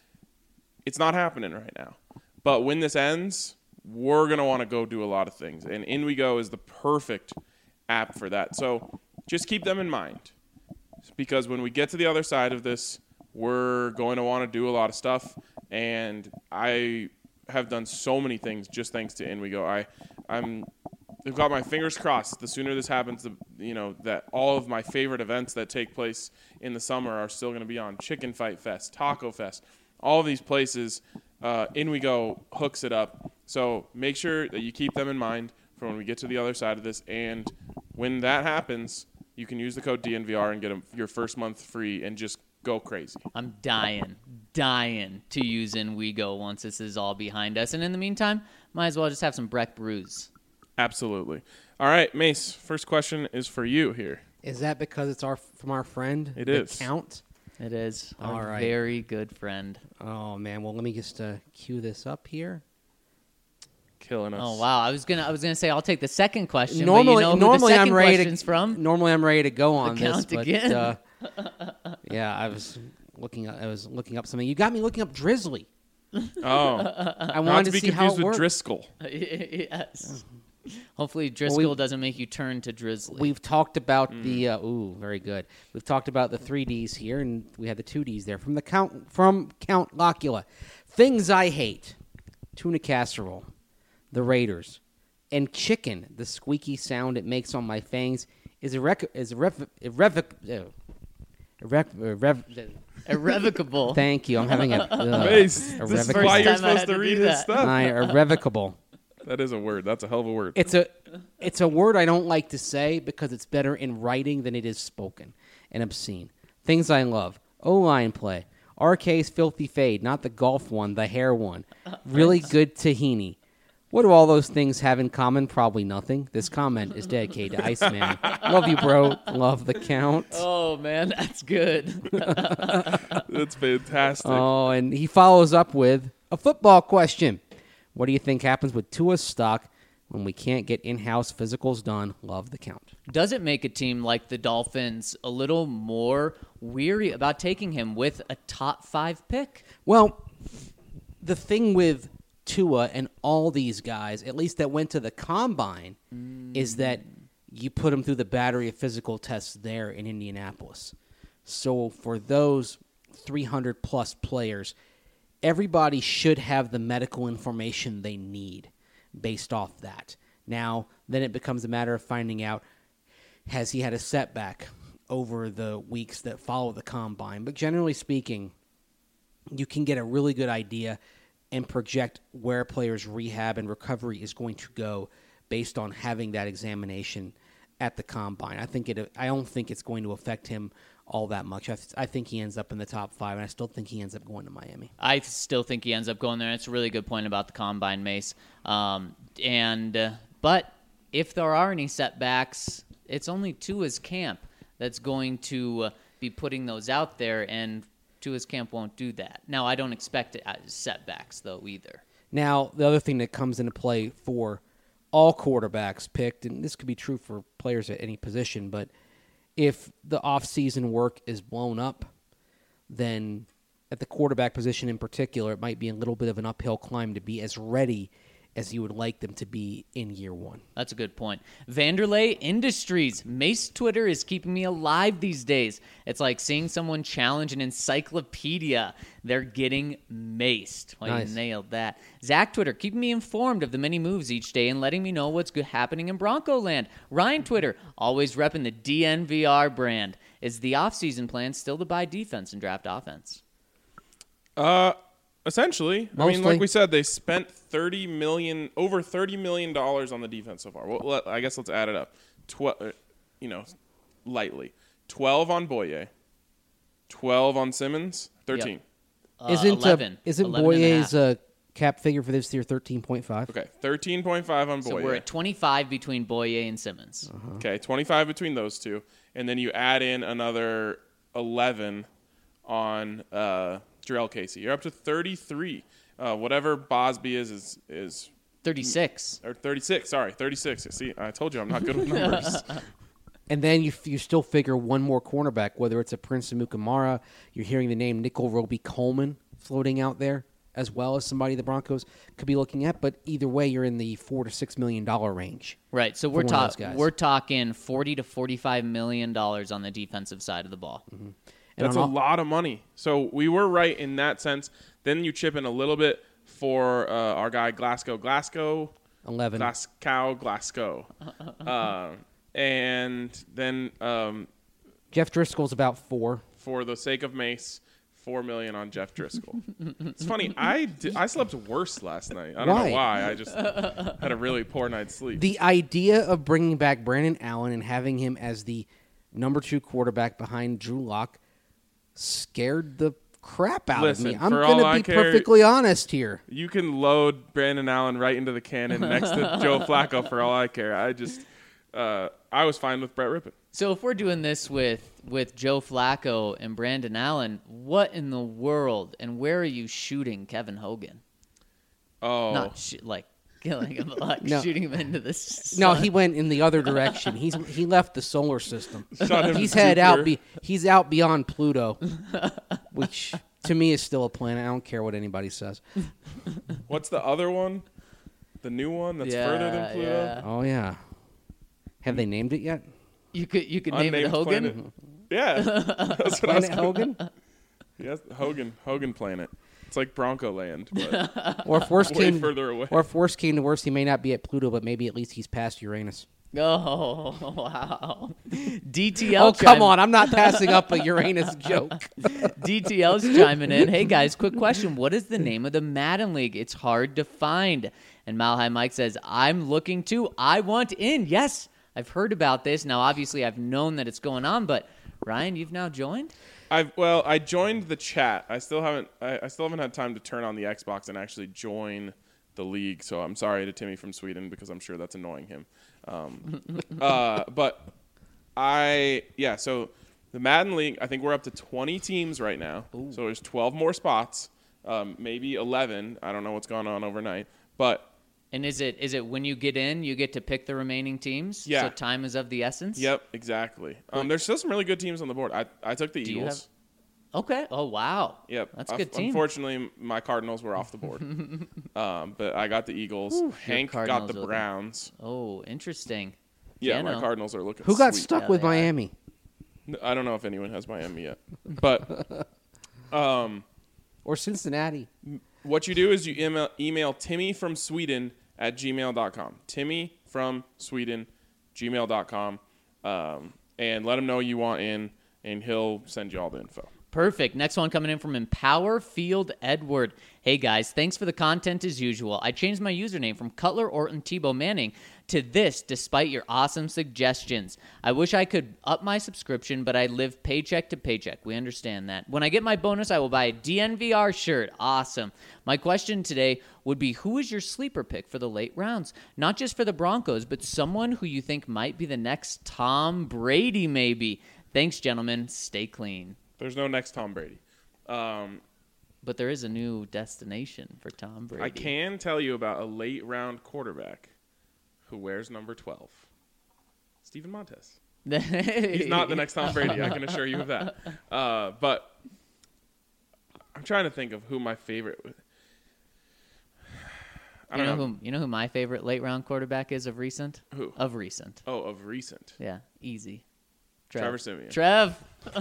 It's not happening right now. But when this ends, we're going to want to go do a lot of things. And InWeGo is the perfect app for that. So just keep them in mind. Because when we get to the other side of this, we're going to want to do a lot of stuff. And I have done so many things just thanks to InWeGo. I've got my fingers crossed. The sooner this happens, that all of my favorite events that take place in the summer are still going to be on. Chicken Fight Fest, Taco Fest, all of these places. InWeGo hooks it up. So make sure that you keep them in mind for when we get to the other side of this. And when that happens, you can use the code DNVR and get your first month free and just go crazy. I'm dying to use InWeGo once this is all behind us. And in the meantime, might as well just have some Breck brews. Absolutely. All right, Mace, first question is for you here. Is that because it's from our friend? It is. Count? It is. All right. Very good friend. Oh, man. Well, let me just cue this up here. Killing us. Oh, wow. I was gonna say I'll take the second question. Normally, but you know who the second question's from? Normally, I'm ready to go on the count this. Again. But, yeah, I was looking up something. You got me looking up Drizzly. Oh. I wanted to see how it with works. Driscoll. Yes. Hopefully Driscoll doesn't make you turn to Drizzly. We've talked about very good. We've talked about the 3 Ds here, and we had the 2 Ds there from Count Locula. Things I hate: tuna casserole, the Raiders, and chicken. The squeaky sound it makes on my fangs is Irrevocable. Thank you. I'm having a Mace, this is irrevocable. why you're First time I supposed had to to read do his that. stuff. My irrevocable. That is a word. That's a hell of a word. It's a word I don't like to say because it's better in writing than it is spoken and obscene. Things I love. O-line play. RK's filthy fade, not the golf one, the hair one. Really good tahini. What do all those things have in common? Probably nothing. This comment is dedicated to Iceman. Love you, bro. Love the count. Oh, man, that's good. That's fantastic. Oh, and he follows up with a football question. What do you think happens with Tua's stock when we can't get in-house physicals done? Love the count. Does it make a team like the Dolphins a little more weary about taking him with a top 5 pick? Well, the thing with Tua and all these guys, at least that went to the combine, is that you put them through the battery of physical tests there in Indianapolis. So for those 300-plus players, everybody should have the medical information they need based off that. Now, then it becomes a matter of finding out, has he had a setback over the weeks that follow the combine? But generally speaking, you can get a really good idea and project where a player's rehab and recovery is going to go based on having that examination at the combine. I don't think it's going to affect him all that much. I think he ends up in the top 5, and I still think he ends up going to Miami. I still think he ends up going there. It's a really good point about the combine, Mace. But if there are any setbacks, it's only Tua's camp that's going to be putting those out there, and Tua's camp won't do that. Now, I don't expect setbacks, though, either. Now, the other thing that comes into play for all quarterbacks picked, and this could be true for players at any position, but if the off-season work is blown up, then at the quarterback position in particular, it might be a little bit of an uphill climb to be as ready as you would like them to be in year one. That's a good point. Vanderlei Industries. Mace Twitter is keeping me alive these days. It's like seeing someone challenge an encyclopedia. They're getting maced. Well, Nice. You nailed that. Zach Twitter, keeping me informed of the many moves each day and letting me know what's happening in Bronco land. Ryan Twitter, always repping the DNVR brand. Is the offseason plan still to buy defense and draft offense? Essentially, I mean, like we said, they spent over $30 million on the defense so far. Well, I guess let's add it up. Lightly. 12 on Boye, 12 on Simmons, 13. Yep. Isn't 11. Isn't 11 and a half. Boye's cap figure for this year 13.5? Okay, 13.5 on Boye. So we're at 25 between Boye and Simmons. Okay, 25 between those two, and then you add in another 11 on Jarrell Casey. You're up to 33. Whatever Bosby is 36. or 36. Sorry, 36. See, I told you I'm not good with numbers. And then you still figure one more cornerback, whether it's a Prince Amukamara, you're hearing the name Nickel Roby-Coleman floating out there, as well as somebody the Broncos could be looking at. But either way, you're in the $4 to $6 million range. Right, so for one of those guys. we're talking $40 to $45 million on the defensive side of the ball. Mm-hmm. That's a lot of money. So we were right in that sense. Then you chip in a little bit for our guy Glasgow. 11. Glasgow. And then Jeff Driscoll's about 4. for the sake of Mace, $4 million on Jeff Driscoll. It's funny. I slept worse last night. I don't know why. I just had a really poor night's sleep. The idea of bringing back Brandon Allen and having him as the number 2 quarterback behind Drew Lock scared the crap out of me. I'm going to be perfectly honest here. You can load Brandon Allen right into the cannon next to Joe Flacco for all I care. I was fine with Brett Rippon. So if we're doing this with Joe Flacco and Brandon Allen, what in the world and where are you shooting Kevin Hogan? Oh. Not killing him, like No. shooting him into the sun. No, he went in the other direction. He left the solar system. Shot him He's to head out. Jupiter. He's out beyond Pluto, which to me is still a planet. I don't care what anybody says. What's the other one? The new one that's further than Pluto? Yeah. Oh yeah. Have they named it yet? You could name it Unnamed Hogan. planet. Yeah. That's what I was Planet Hogan? Yes, Hogan planet. It's like Bronco Land, but Or if worst way came, further away. or if worst came to worst, he may not be at Pluto, but maybe at least he's past Uranus. Oh, wow. DTL. Oh, come on. I'm not passing up a Uranus joke. DTL's chiming in. Hey, guys, quick question. What is the name of the Madden League? It's hard to find. And Malhai Mike says, I'm looking too. I want in. Yes, I've heard about this. Now, obviously, I've known that it's going on, but Ryan, you've now joined? I joined the chat. I still haven't had time to turn on the Xbox and actually join the league. So I'm sorry to Timmy from Sweden because I'm sure that's annoying him. But so the Madden League, I think we're up to 20 teams right now. Ooh. So there's 12 more spots, maybe 11. I don't know what's going on overnight, but. And is it when you get in, you get to pick the remaining teams? Yeah. So time is of the essence? Yep, exactly. There's still some really good teams on the board. I took the Eagles. Okay. Oh, wow. Yep. That's a good team. Unfortunately, my Cardinals were off the board. But I got the Eagles. Ooh, Hank got the Browns. Oh, interesting. Yeah, my Cardinals are looking Who got sweet. stuck with Miami? I don't know if anyone has Miami yet. But or Cincinnati. What you do is you email Timmy from Sweden at gmail.com. Timmy from Sweden, gmail.com. And let him know you want in, and he'll send you all the info. Perfect. Next one coming in from Empower Field Edward. Hey, guys, thanks for the content as usual. I changed my username from Cutler Orton Tebow Manning to this despite your awesome suggestions. I wish I could up my subscription, but I live paycheck to paycheck. We understand that. When I get my bonus, I will buy a DNVR shirt. Awesome. My question today would be, who is your sleeper pick for the late rounds? Not just for the Broncos, but someone who you think might be the next Tom Brady, maybe. Thanks, gentlemen. Stay clean. There's no next Tom Brady. But there is a new destination for Tom Brady. I can tell you about a late round quarterback who wears number 12. Steven Montez. He's not the next Tom Brady, I can assure you of that. But I'm trying to think of who my favorite. You know who my favorite late round quarterback is of recent? Who? Of recent. Oh, of recent. Yeah, easy. Trevor Siemian. Trev.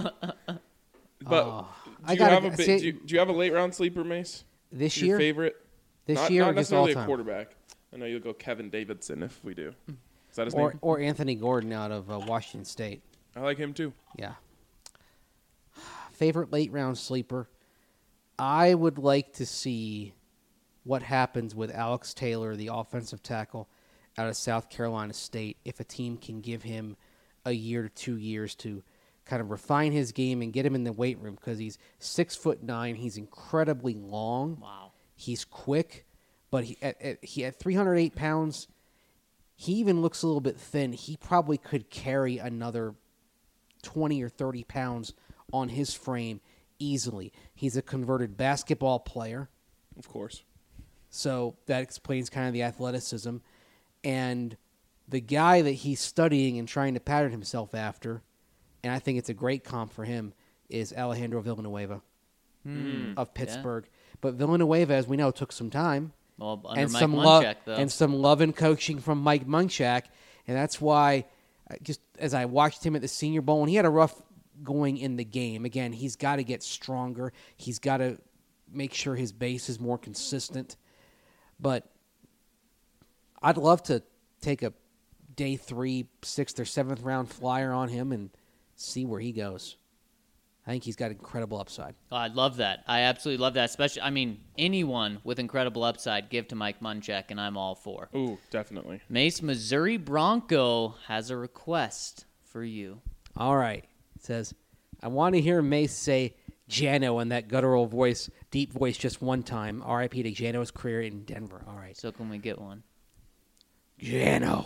But do you have a late round sleeper, Mace? This Your year? favorite? This year not or just necessarily all a time? quarterback. I know you'll go Kevin Davidson if we do. Is that his name? Or Anthony Gordon out of Washington State. I like him too. Yeah. Favorite late round sleeper? I would like to see what happens with Alex Taylor, the offensive tackle out of South Carolina State, if a team can give him a year to 2 years to kind of refine his game and get him in the weight room, because he's 6'9". He's incredibly long. Wow. He's quick, but he at 308 pounds, he even looks a little bit thin. He probably could carry another 20 or 30 pounds on his frame easily. He's a converted basketball player. Of course. So that explains kind of the athleticism. And the guy that he's studying and trying to pattern himself after, and I think it's a great comp for him, is Alejandro Villanueva of Pittsburgh. Yeah. But Villanueva, as we know, took some time. Well, under and Mike some Munchak, though. And some love and coaching from Mike Munchak. And that's why, just as I watched him at the Senior Bowl, and he had a rough going in the game. Again, he's got to get stronger. He's got to make sure his base is more consistent. But I'd love to take a day 3, 6th, or 7th round flyer on him and see where he goes. I think he's got incredible upside. Oh, I love that. I absolutely love that. Especially, anyone with incredible upside, give to Mike Munchak, and I'm all for. Ooh, definitely. Mace, Missouri Bronco has a request for you. All right. It says, I want to hear Mace say Jano in that guttural voice, deep voice just one time. R.I.P. to Jano's career in Denver. All right. So can we get one? Jano.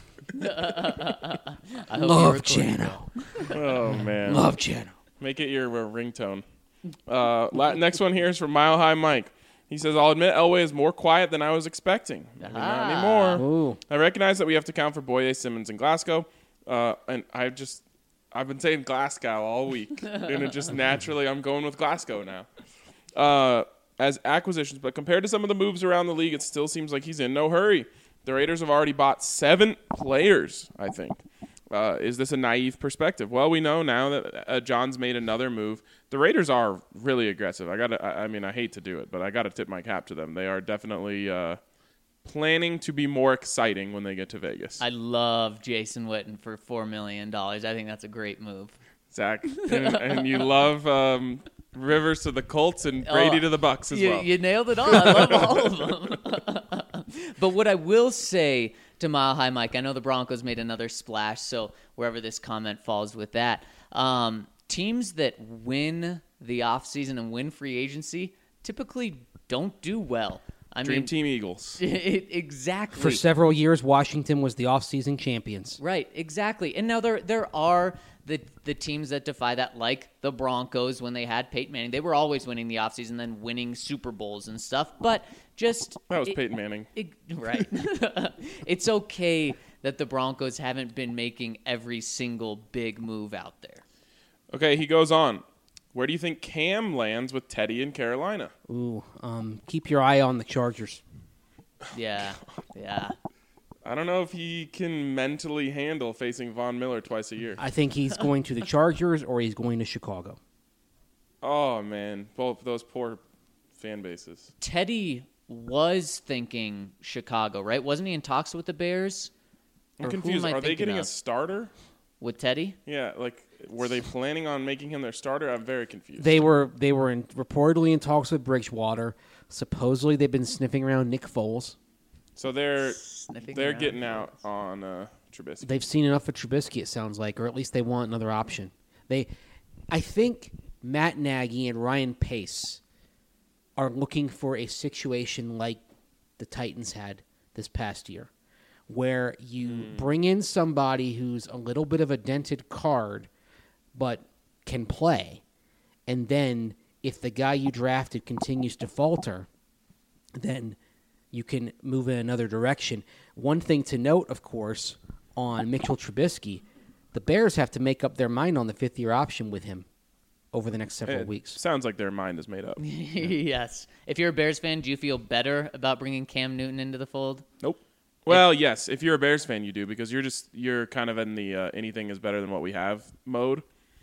I Love Jano. Oh, man. Love Jano. Make it your ringtone. Next one here is from Mile High Mike. He says, I'll admit Elway is more quiet than I was expecting. Maybe not anymore. Ooh. I recognize that we have to count for Boye, Simmons, and Glasgow. And I've been saying Glasgow all week. And it just naturally, I'm going with Glasgow now. As acquisitions, but compared to some of the moves around the league, it still seems like he's in no hurry. The Raiders have already bought 7 players, I think. Is this a naive perspective? Well, we know now that John's made another move. The Raiders are really aggressive. I hate to do it, but I got to tip my cap to them. They are definitely planning to be more exciting when they get to Vegas. I love Jason Witten for $4 million. I think that's a great move. Zach, and you love Rivers to the Colts and Brady to the Bucks as well. You nailed it all. I love all of them. But what I will say to Mile High Mike, I know the Broncos made another splash, so wherever this comment falls with that, teams that win the offseason and win free agency typically don't do well. Dream Team Eagles. Exactly. For several years, Washington was the offseason champions. Right, exactly. And now there are the teams that defy that, like the Broncos when they had Peyton Manning. They were always winning the offseason, then winning Super Bowls and stuff. But just... That was Peyton Manning. Right. It's okay that the Broncos haven't been making every single big move out there. Okay, he goes on. Where do you think Cam lands with Teddy in Carolina? Ooh, keep your eye on the Chargers. Yeah. I don't know if he can mentally handle facing Von Miller twice a year. I think he's going to the Chargers or he's going to Chicago. Oh, man. Both those poor fan bases. Teddy was thinking Chicago, right? Wasn't he in talks with the Bears? I'm Or who confused. am I Are they thinking getting a of? starter? With Teddy? Yeah, were they planning on making him their starter? I'm very confused. They were reportedly in talks with Bridgewater. Supposedly they've been sniffing around Nick Foles. So they're around getting out on Trubisky. They've seen enough of Trubisky, it sounds like, or at least they want another option. I think Matt Nagy and Ryan Pace are looking for a situation like the Titans had this past year, where you bring in somebody who's a little bit of a dented card, but can play, and then if the guy you drafted continues to falter, then you can move in another direction. One thing to note, of course, on Mitchell Trubisky, the Bears have to make up their mind on the fifth-year option with him over the next several weeks. Sounds like their mind is made up. Yes. If you're a Bears fan, do you feel better about bringing Cam Newton into the fold? Nope. Well, yes. If you're a Bears fan, you do, because you're kind of in the anything is better than what we have mode.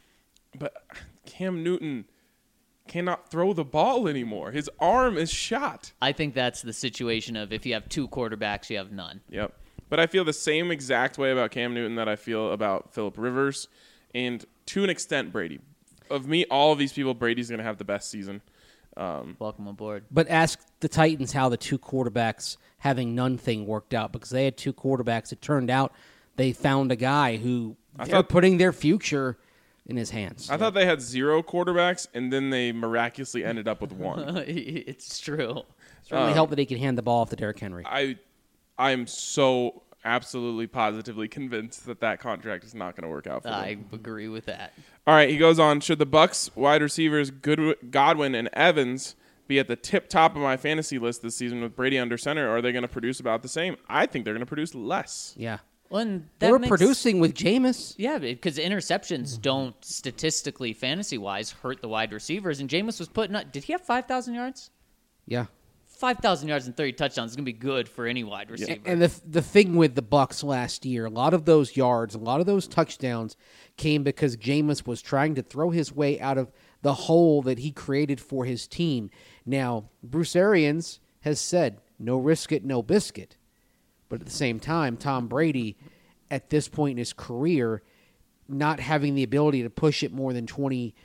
But Cam Newton cannot throw the ball anymore. His arm is shot. I think that's the situation of if you have two quarterbacks, you have none. Yep. But I feel the same exact way about Cam Newton that I feel about Phillip Rivers, and to an extent, Brady. Of me, all of these people, Brady's going to have the best season. Welcome aboard. But ask the Titans how the two quarterbacks having none thing worked out, because they had two quarterbacks. It turned out they found a guy who they're putting their future in his hands. I thought they had 0 quarterbacks, and then they miraculously ended up with 1. It's true. It's really helped that he can hand the ball off to Derrick Henry. I am so absolutely positively convinced that contract is not going to work out for them. I agree with that. All right, he goes on. Should the Bucks wide receivers Godwin and Evans be at the tip top of my fantasy list this season with Brady under center, or are they going to produce about the same? I think they're going to produce less. Yeah. Well, and They were producing with Jameis. Yeah, because interceptions don't statistically, fantasy-wise, hurt the wide receivers. And Jameis was putting up – did he have 5,000 yards? Yeah. 5,000 yards and 30 touchdowns is going to be good for any wide receiver. And the thing with the Bucks last year, a lot of those yards, a lot of those touchdowns came because Jameis was trying to throw his way out of the hole that he created for his team. Now, Bruce Arians has said, no risk it, no biscuit. But at the same time, Tom Brady, at this point in his career, not having the ability to push it more than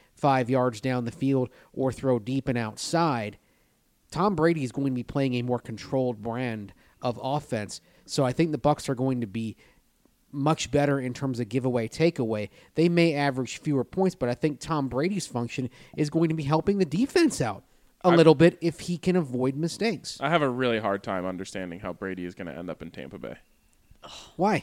25 yards down the field or throw deep and outside, Tom Brady is going to be playing a more controlled brand of offense. So I think the Bucs are going to be much better in terms of giveaway, takeaway. They may average fewer points, but I think Tom Brady's function is going to be helping the defense out a little bit if he can avoid mistakes. I have a really hard time understanding how Brady is going to end up in Tampa Bay. Why?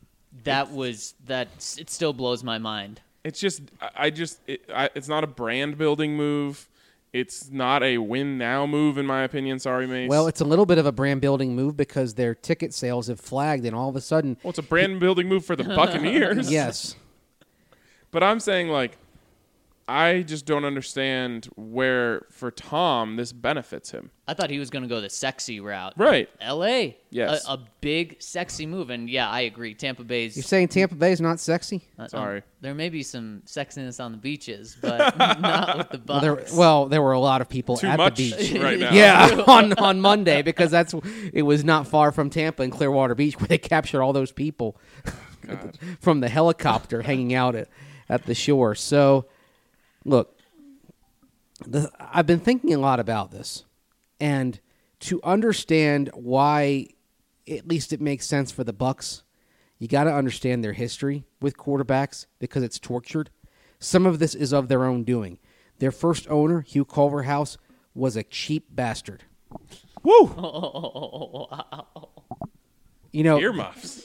It still blows my mind. It's just it's not a brand building move. It's not a win now move, in my opinion. Sorry, Mace. Well, it's a little bit of a brand building move because their ticket sales have flagged, and all of a sudden, it's a brand building move for the Buccaneers. Yes, but I'm saying I just don't understand where, for Tom, this benefits him. I thought he was going to go the sexy route. Right. L.A. Yes. A big, sexy move. And, yeah, I agree. Tampa Bay's... You're saying Tampa Bay is not sexy? Sorry. There may be some sexiness on the beaches, but not with the Bucks. There were a lot of people Too at much the beach. right now. Yeah, on Monday, because it was not far from Tampa and Clearwater Beach, where they captured all those people from the helicopter hanging out at the shore. So, look, I've been thinking a lot about this, and to understand why, at least it makes sense for the Bucks, you got to understand their history with quarterbacks because it's tortured. Some of this is of their own doing. Their first owner, Hugh Culverhouse, was a cheap bastard. Woo! Oh, wow. You know, Earmuffs.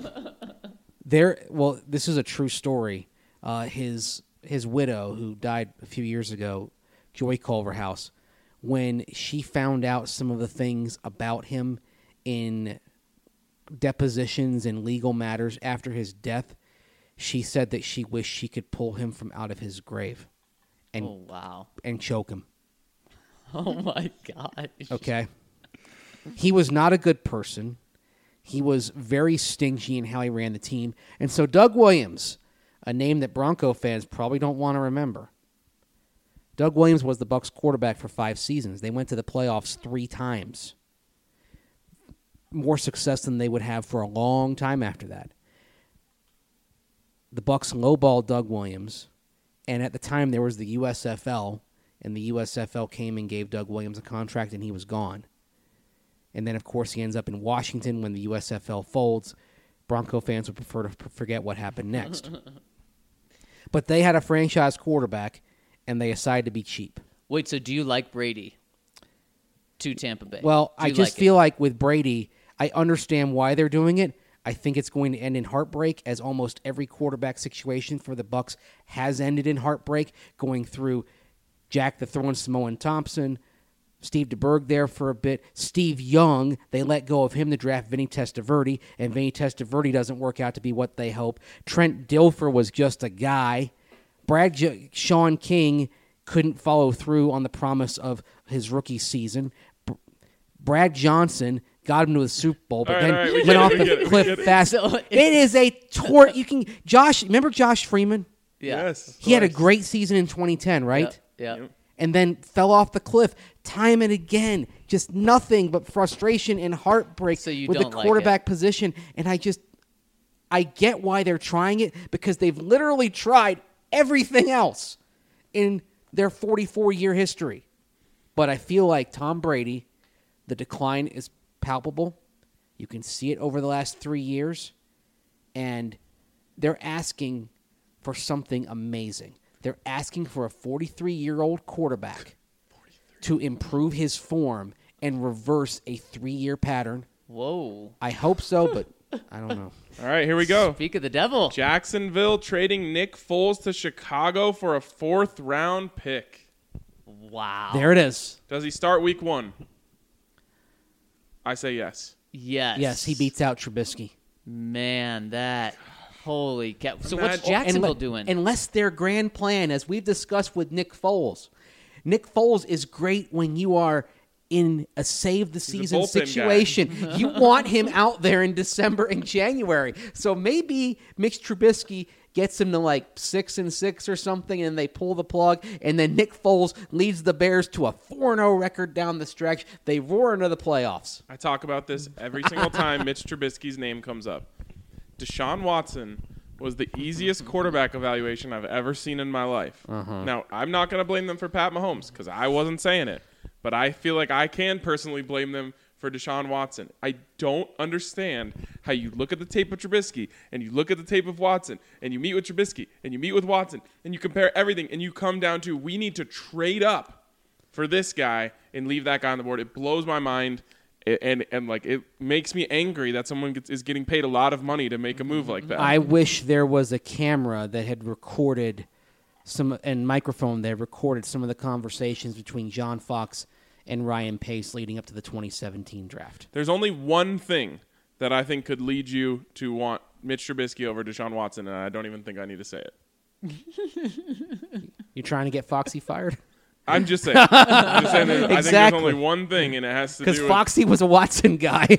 This is a true story. His widow, who died a few years ago, Joy Culverhouse, when she found out some of the things about him in depositions and legal matters after his death, she said that she wished she could pull him from out of his grave and Oh, wow. and choke him. Oh, my God. Okay. He was not a good person. He was very stingy in how he ran the team. And so Doug Williams, a name that Bronco fans probably don't want to remember. Doug Williams was the Bucs quarterback for 5 seasons. They went to the playoffs 3 times. More success than they would have for a long time after that. The Bucs lowballed Doug Williams, and at the time there was the USFL, and the USFL came and gave Doug Williams a contract, and he was gone. And then, of course, he ends up in Washington when the USFL folds. Bronco fans would prefer to forget what happened next. But they had a franchise quarterback, and they decided to be cheap. Wait, so do you like Brady to Tampa Bay? Well, Do I you just like feel like with Brady, I understand why they're doing it. I think it's going to end in heartbreak, as almost every quarterback situation for the Bucs has ended in heartbreak, going through Jack the Throwing Samoan Thompson, Steve DeBerg there for a bit. Steve Young, they let go of him to draft Vinny Testaverde, and Vinny Testaverde doesn't work out to be what they hope. Trent Dilfer was just a guy. Sean King couldn't follow through on the promise of his rookie season. Brad Johnson got him to the Super Bowl, but went off the cliff fast. So it is a tort. Remember Josh Freeman? Yeah. Yes. He had a great season in 2010, right? Yeah. And then fell off the cliff time and again. Just nothing but frustration and heartbreak So you with the don't like quarterback position. And I get why they're trying it, because they've literally tried everything else in their 44-year history. But I feel like Tom Brady, the decline is palpable. You can see it over the last 3 years. And they're asking for something amazing. They're asking for a 43-year-old quarterback to improve his form and reverse a 3-year pattern. Whoa. I hope so, but I don't know. All right, here we go. Speak of the devil. Jacksonville trading Nick Foles to Chicago for a 4th-round pick. Wow. There it is. Does he start week 1? I say yes. Yes. Yes, he beats out Trubisky. Man, that... Holy cow. So Imagine- what's Jacksonville doing? Unless their grand plan, as we've discussed with Nick Foles. Nick Foles is great when you are in a save-the-season bullpen guy. situation. You want him out there in December and January. So maybe Mitch Trubisky gets him to like 6-6 or something, and they pull the plug, and then Nick Foles leads the Bears to a 4-0 record down the stretch. They roar into the playoffs. I talk about this every single time Mitch Trubisky's name comes up. Deshaun Watson was the easiest quarterback evaluation I've ever seen in my life. Now, I'm not going to blame them for Pat Mahomes because I wasn't saying it, but I feel like I can personally blame them for Deshaun Watson. I don't understand how you look at the tape of Trubisky and you look at the tape of Watson and you meet with Trubisky and you meet with Watson and you compare everything and you come down to we need to trade up for this guy and leave that guy on the board. It blows my mind. And like it makes me angry that someone is getting paid a lot of money to make a move like that. I wish there was a camera that had recorded microphone that recorded some of the conversations between John Fox and Ryan Pace leading up to the 2017 draft. There's only one thing that I think could lead you to want Mitch Trubisky over Deshaun Watson, and I don't even think I need to say it. You trying to get Foxy fired? I'm just saying. I think there's Exactly. only one thing, and it has to do Because with... Foxy was a Watson guy.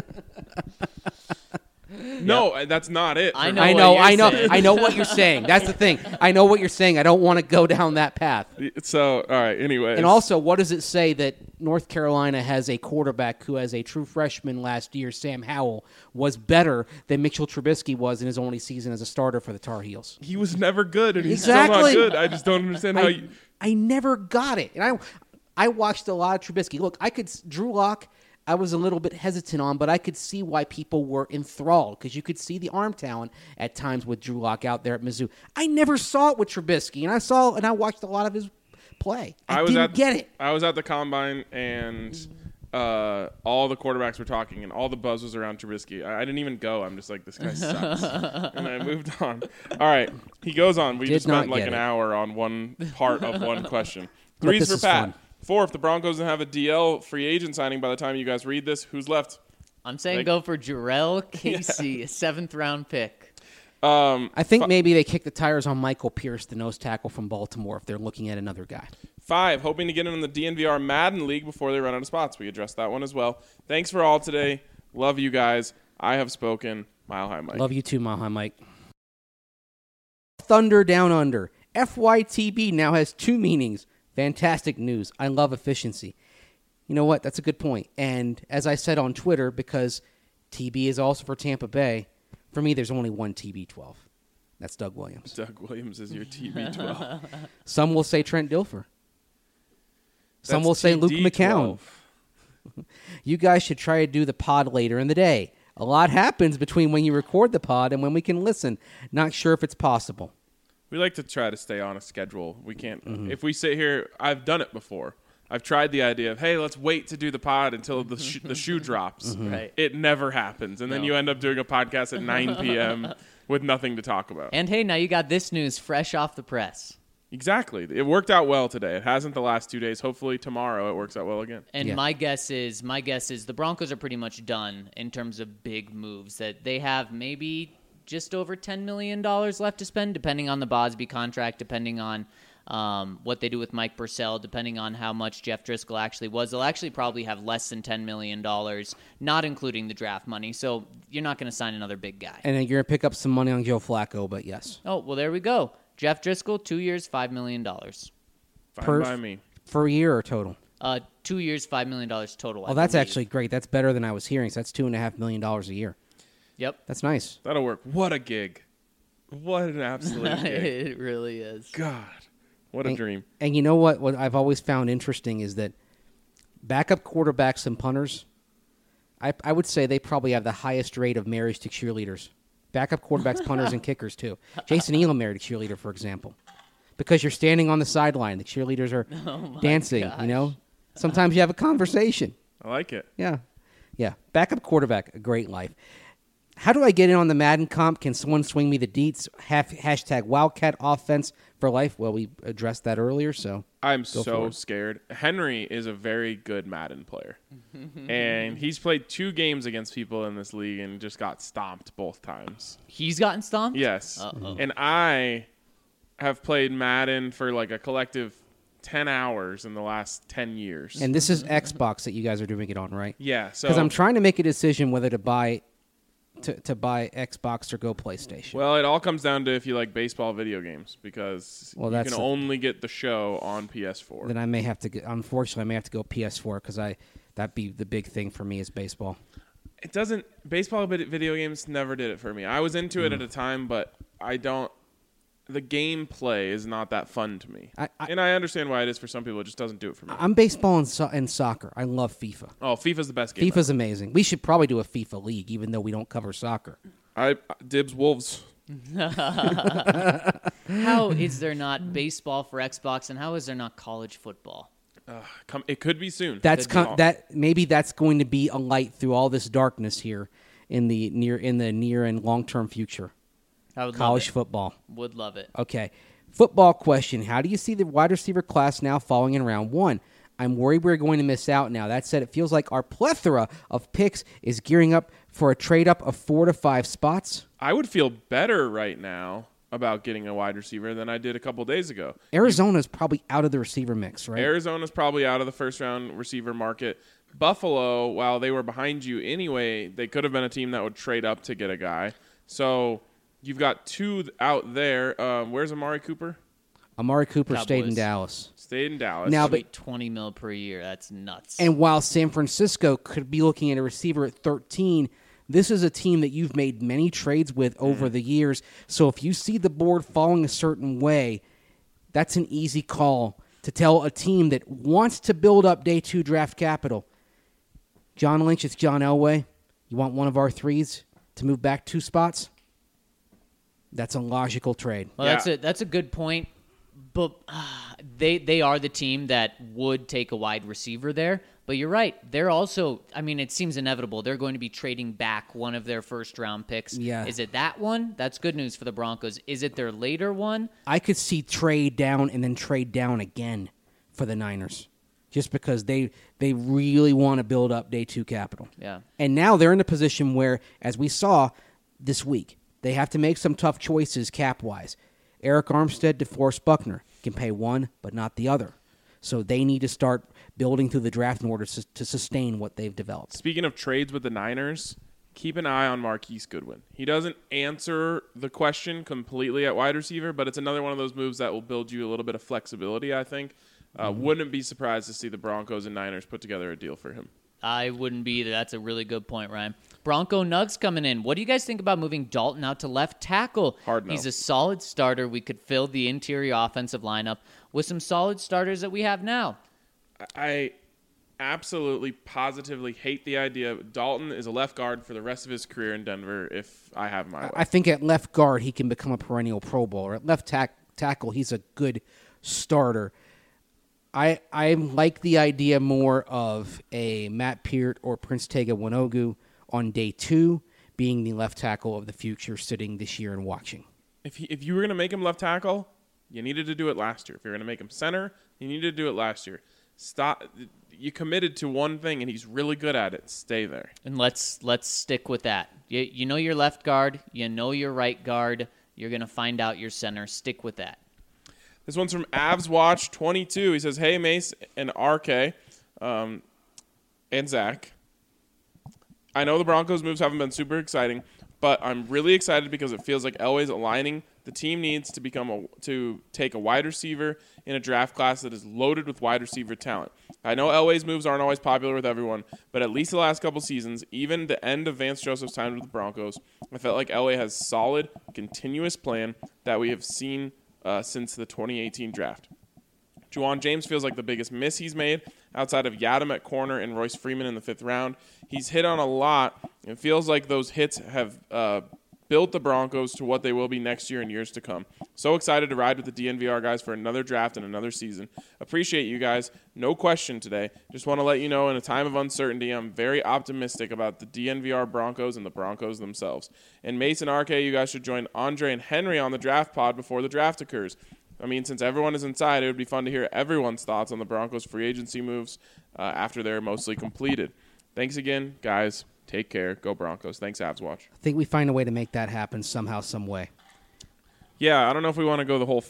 No, that's not it. I for know me. what you're saying. I know what you're saying. That's the thing. I know what you're saying. I don't want to go down that path. So, all right, anyways. And also, what does it say that North Carolina has a quarterback who, as a true freshman last year, Sam Howell, was better than Mitchell Trubisky was in his only season as a starter for the Tar Heels? He was never good, and he's Exactly. still not good. I just don't understand how you... I never got it. And I watched a lot of Trubisky. Look, Drew Lock, I was a little bit hesitant on, but I could see why people were enthralled because you could see the arm talent at times with Drew Lock out there at Mizzou. I never saw it with Trubisky, and I watched a lot of his play. I didn't get it. I was at the Combine, and all the quarterbacks were talking, and all the buzz was around Trubisky. I didn't even go. I'm just like, this guy sucks. And I moved on. All right. He goes on. We just spent like an hour on one part of one question. Threes for Pat. Fun. 4, if the Broncos don't have a DL free agent signing by the time you guys read this, who's left? I'm saying go for Jarrell Casey, a 7th-round pick. I think maybe they kick the tires on Michael Pierce, the nose tackle from Baltimore, if they're looking at another guy. 5, hoping to get in the DNVR Madden League before they run out of spots. We addressed that one as well. Thanks for all today. Love you guys. I have spoken. Mile High Mike. Love you too, Mile High Mike. Thunder Down Under. FYTB now has 2 meanings. Fantastic news. I love efficiency. You know what? That's a good point. And as I said on Twitter, because TB is also for Tampa Bay, for me, there's only one TB12. That's Doug Williams. Doug Williams is your TB12. Some will say Trent Dilfer. Some That's will say Luke TD12. McCown. You guys should try to do the pod later in the day. A lot happens between when you record the pod and when we can listen. Not sure if it's possible. We like to try to stay on a schedule. We can't. If we sit here, I've done it before. I've tried the idea of, hey, let's wait to do the pod until the shoe drops. Right. It never happens. And then you end up doing a podcast at 9 p.m. with nothing to talk about. And hey, now you got this news fresh off the press. Exactly. It worked out well today. It hasn't the last 2 days. Hopefully tomorrow it works out well again. And Yeah. my guess is the Broncos are pretty much done in terms of big moves. That they have maybe just over $10 million left to spend, depending on the Bosby contract, depending on what they do with Mike Purcell, depending on how much Jeff Driscoll actually was. They'll actually probably have less than $10 million, not including the draft money. So you're not going to sign another big guy. And then you're going to pick up some money on Joe Flacco, but yes. Oh, well, there we go. Jeff Driscoll, 2 years, $5 million. Fine by me. For a year or total? 2 years, $5 million total. Oh, that's actually great. That's better than I was hearing. So that's $2.5 million a year. Yep. That's nice. That'll work. What a gig. What an absolute gig. It really is. God. What a dream. And you know what? What I've always found interesting is that backup quarterbacks and punters, I would say they probably have the highest rate of marriage to cheerleaders. Backup quarterbacks, punters, and kickers, too. Jason Elam married a cheerleader, for example. Because you're standing on the sideline. The cheerleaders are dancing, you know? Sometimes you have a conversation. I like it. Yeah. Yeah. Backup quarterback, a great life. How do I get in on the Madden comp? Can someone swing me the deets? Hashtag Wildcat offense for life. Well, we addressed that earlier, so. I'm so scared. Henry is a very good Madden player. And he's played 2 games against people in this league and just got stomped both times. He's gotten stomped? Yes. Uh-oh. And I have played Madden for like a collective 10 hours in the last 10 years. And this is Xbox that you guys are doing it on, right? Yeah. So Because I'm trying to make a decision whether to buy Xbox or go PlayStation. Well, it all comes down to if you like baseball video games because you can only get the show on PS4. Then I may have to get, unfortunately, I may have to go PS4 because that'd be the big thing for me is baseball. It doesn't. Baseball video games never did it for me. I was into it at a time, but I don't. The gameplay is not that fun to me. And I understand why it is for some people. It just doesn't do it for me. I'm baseball and soccer. I love FIFA. Oh, FIFA's the best game. FIFA's amazing. We should probably do a FIFA league, even though we don't cover soccer. I dibs Wolves. How is there not baseball for Xbox, and how is there not college football? It could be soon. Maybe that's going to be a light through all this darkness here in the near and long term future. I would College love it. football. Would love it. Okay. Football question. How do you see the wide receiver class now falling in round 1? I'm worried we're going to miss out now. That said, it feels like our plethora of picks is gearing up for a trade-up of 4 to 5 spots. I would feel better right now about getting a wide receiver than I did a couple days ago. Arizona's probably out of the receiver mix, right? Arizona's probably out of the first-round receiver market. Buffalo, while they were behind you anyway, they could have been a team that would trade up to get a guy. So you've got two out there. Where's Amari Cooper? Amari Cooper Cowboys. stayed in Dallas. Stayed in Dallas. Now, That'd but be $20 million per year. That's nuts. and while San Francisco could be looking at a receiver at 13, this is a team that you've made many trades with over the years. So if you see the board falling a certain way, that's an easy call to tell a team that wants to build up day 2 draft capital. John Lynch, it's John Elway. You want one of our threes to move back 2 spots? That's a logical trade. Well, Yeah. that's a good point. But they are the team that would take a wide receiver there. But you're right. They're also, I mean, it seems inevitable. They're going to be trading back one of their first-round picks. Yeah. Is it that one? That's good news for the Broncos. Is it their later one? I could see trade down and then trade down again for the Niners, just because they really want to build up day 2 capital. Yeah. And now they're in a position where, as we saw this week, they have to make some tough choices cap-wise. Eric Armstead, DeForest Buckner can pay one, but not the other. So they need to start building through the draft in order to sustain what they've developed. Speaking of trades with the Niners, keep an eye on Marquise Goodwin. He doesn't answer the question completely at wide receiver, but it's another one of those moves that will build you a little bit of flexibility, I think. Wouldn't be surprised to see the Broncos and Niners put together a deal for him. I wouldn't be either. That's a really good point, Ryan. Bronco Nugs coming in. What do you guys think about moving Dalton out to left tackle? Hard no. He's a solid starter. We could fill the interior offensive lineup with some solid starters that we have now. I absolutely, positively hate the idea. Dalton is a left guard for the rest of his career in Denver if I have my way. I think at left guard, he can become a perennial Pro Bowler. At left tackle, he's a good starter. I like the idea more of a Matt Peart or Prince Tega Winogu on day 2 being the left tackle of the future, sitting this year and watching. If you were going to make him left tackle, you needed to do it last year. If you're going to make him center, you needed to do it last year. Stop. You committed to one thing, and he's really good at it. Stay there. And let's stick with that. You know your left guard. You know your right guard. You're going to find out your center. Stick with that. This one's from Avs Watch 22. He says, "Hey Mace and RK, and Zach. I know the Broncos moves haven't been super exciting, but I'm really excited because it feels like Elway's aligning. The team needs to take a wide receiver in a draft class that is loaded with wide receiver talent. I know Elway's moves aren't always popular with everyone, but at least the last couple seasons, even the end of Vance Joseph's time with the Broncos, I felt like Elway has solid, continuous plan that we have seen since the 2018 draft. Juwan James feels like the biggest miss he's made outside of Yadam at corner and Royce Freeman in the 5th round. He's hit on a lot. It feels like those hits have built the Broncos to what they will be next year and years to come. So excited to ride with the DNVR guys for another draft and another season. Appreciate you guys. No question today. Just want to let you know in a time of uncertainty, I'm very optimistic about the DNVR Broncos and the Broncos themselves. And Mason RK, you guys should join Andre and Henry on the draft pod before the draft occurs. I mean, since everyone is inside, it would be fun to hear everyone's thoughts on the Broncos' free agency moves after they're mostly completed. Thanks again, guys. Take care. Go Broncos. Thanks, Avs Watch. I think we find a way to make that happen somehow, some way. Yeah, I don't know if we want to go the whole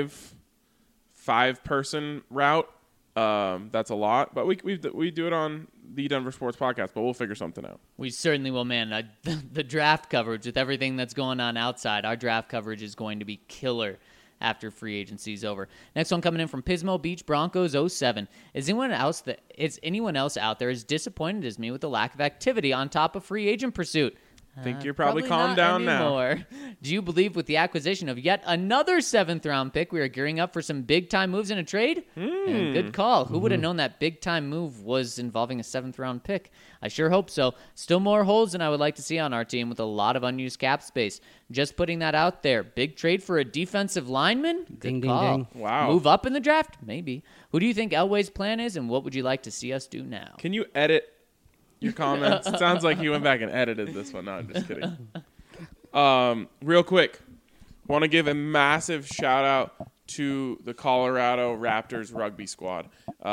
five-person route. That's a lot, but we do it on the Denver Sports Podcast, but we'll figure something out. We certainly will, man. The draft coverage with everything that's going on outside, our draft coverage is going to be killer after free agency is over. Next one coming in from Pismo Beach Broncos 07. Is anyone else out there as disappointed as me with the lack of activity on top of free agent pursuit? I think you're probably not calmed down anymore. Do you believe with the acquisition of yet another 7th-round pick, we are gearing up for some big-time moves in a trade? Yeah, good call. Who would have known that big-time move was involving a 7th-round pick? I sure hope so. Still more holes than I would like to see on our team with a lot of unused cap space. Just putting that out there. Big trade for a defensive lineman? Good Ding, call. ding, ding. Wow. Move up in the draft? Maybe. Who do you think Elway's plan is, and what would you like to see us do now? Can you edit your comments? It sounds like you went back and edited this one. No, I'm just kidding. Real quick, want to give a massive shout-out to the Colorado Raptors rugby squad.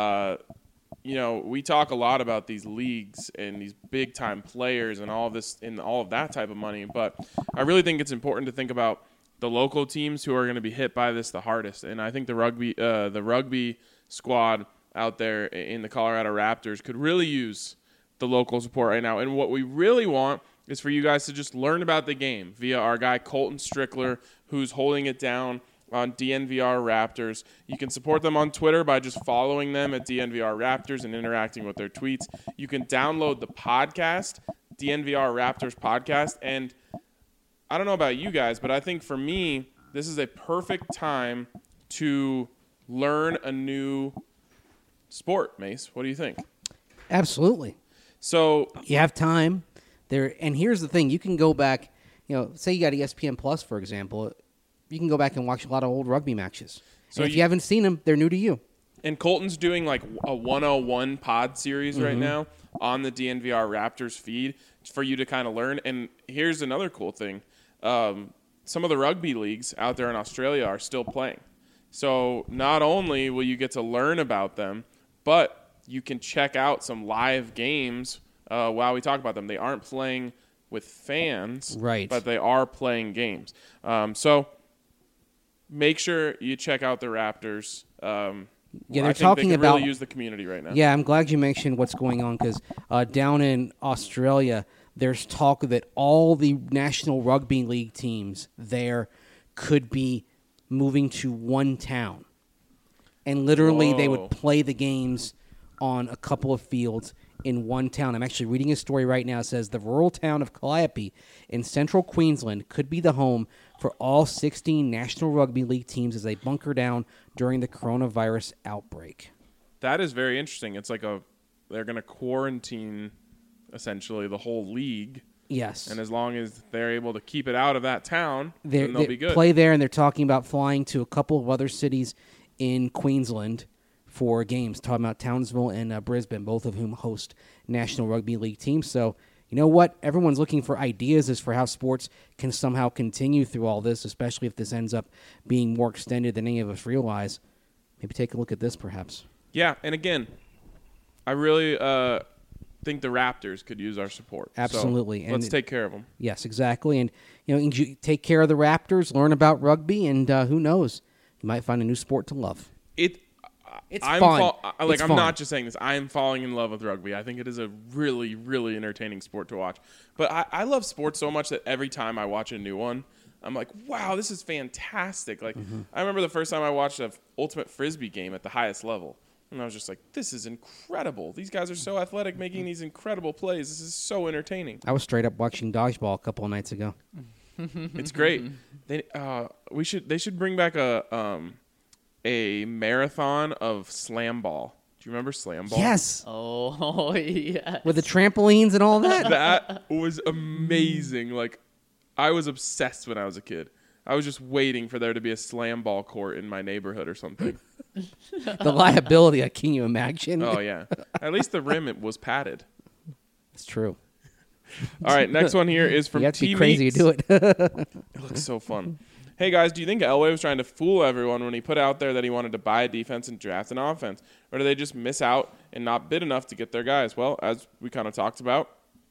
We talk a lot about these leagues and these big-time players and all of this and all of that type of money, but I really think it's important to think about the local teams who are going to be hit by this the hardest. And I think the rugby squad out there in the Colorado Raptors could really use the local support right now. And what we really want is for you guys to just learn about the game via our guy Colton Strickler, who's holding it down on DNVR Raptors. You can support them on Twitter by just following them at DNVR Raptors and interacting with their tweets. You can download the podcast, DNVR Raptors podcast. And I don't know about you guys, but I think for me, this is a perfect time to learn a new sport. Mace, what do you think? Absolutely. So you have time there, and here's the thing: you can go back. Say you got ESPN Plus, for example. You can go back and watch a lot of old rugby matches. So if you haven't seen them, they're new to you. And Colton's doing like a 101 pod series right now on the DNVR Raptors feed for you to kind of learn. And here's another cool thing. Some of the rugby leagues out there in Australia are still playing. So not only will you get to learn about them, but you can check out some live games while we talk about them. They aren't playing with fans, right? But they are playing games. So make sure you check out the Raptors. They're talking about really use the community right now. Yeah, I'm glad you mentioned what's going on because down in Australia, there's talk that all the National Rugby League teams there could be moving to one town, and literally they would play the games on a couple of fields in one town. I'm actually reading a story right now. It says the rural town of Calliope in central Queensland could be the home for all 16 National Rugby League teams as they bunker down during the coronavirus outbreak. That is very interesting. It's like they're going to quarantine essentially the whole league. Yes. And as long as they're able to keep it out of that town, then they'll be good. Play there, and they're talking about flying to a couple of other cities in Queensland for games. Talking about Townsville and Brisbane, both of whom host National Rugby League teams. So, you know what? Everyone's looking for ideas as for how sports can somehow continue through all this, especially if this ends up being more extended than any of us realize. Maybe take a look at this, perhaps. Yeah, and again, I really think the Raptors could use our support. Absolutely. So let's take care of them. Yes, exactly. And you take care of the Raptors, learn about rugby, and who knows? You might find a new sport to love. It's fun. I'm not just saying this. I am falling in love with rugby. I think it is a really, really entertaining sport to watch. But I love sports so much that every time I watch a new one, I'm like, wow, this is fantastic. Like, I remember the first time I watched an Ultimate Frisbee game at the highest level. And I was just like, this is incredible. These guys are so athletic, making these incredible plays. This is so entertaining. I was straight up watching dodgeball a couple of nights ago. It's great. They should bring back a marathon of slam ball. Do you remember slam ball? Yes. Oh, yes. With the trampolines and all that? That was amazing. Like, I was obsessed when I was a kid. I was just waiting for there to be a slam ball court in my neighborhood or something. The liability, can you imagine? Oh, yeah. At least the rim, it was padded. It's true. All right, next one here is from You have to be T crazy Meats. to do it. It looks so fun. Hey, guys, do you think Elway was trying to fool everyone when he put out there that he wanted to buy a defense and draft an offense? Or do they just miss out and not bid enough to get their guys? Well, as we kind of talked about,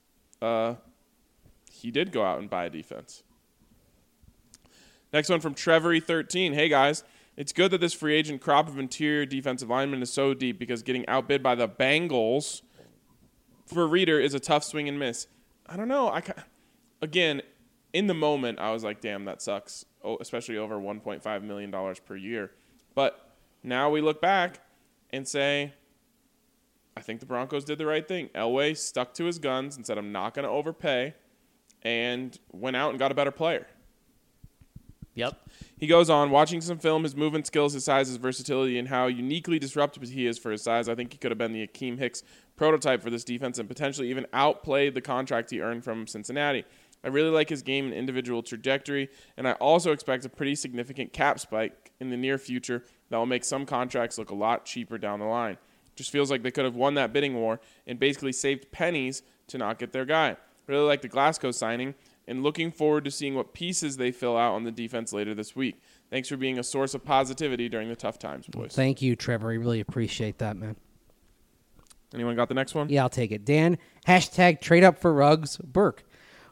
he did go out and buy a defense. Next one from Trevory13. Hey, guys, it's good that this free agent crop of interior defensive linemen is so deep because getting outbid by the Bengals for a reader is a tough swing and miss. I don't know. Again, in the moment, I was like, damn, that sucks, especially over $1.5 million per year. But now we look back and say, I think the Broncos did the right thing. Elway stuck to his guns and said, I'm not going to overpay, and went out and got a better player. Yep. He goes on, watching some film, his movement skills, his size, his versatility, and how uniquely disruptive he is for his size. I think he could have been the Akeem Hicks prototype for this defense and potentially even outplayed the contract he earned from Cincinnati. I really like his game and individual trajectory, and I also expect a pretty significant cap spike in the near future that will make some contracts look a lot cheaper down the line. Just feels like they could have won that bidding war and basically saved pennies to not get their guy. Really like the Glasgow signing, and looking forward to seeing what pieces they fill out on the defense later this week. Thanks for being a source of positivity during the tough times, boys. Thank you, Trevor. We really appreciate that, man. Anyone got the next one? Yeah, I'll take it. Dan, hashtag trade up for Ruggs, Burke.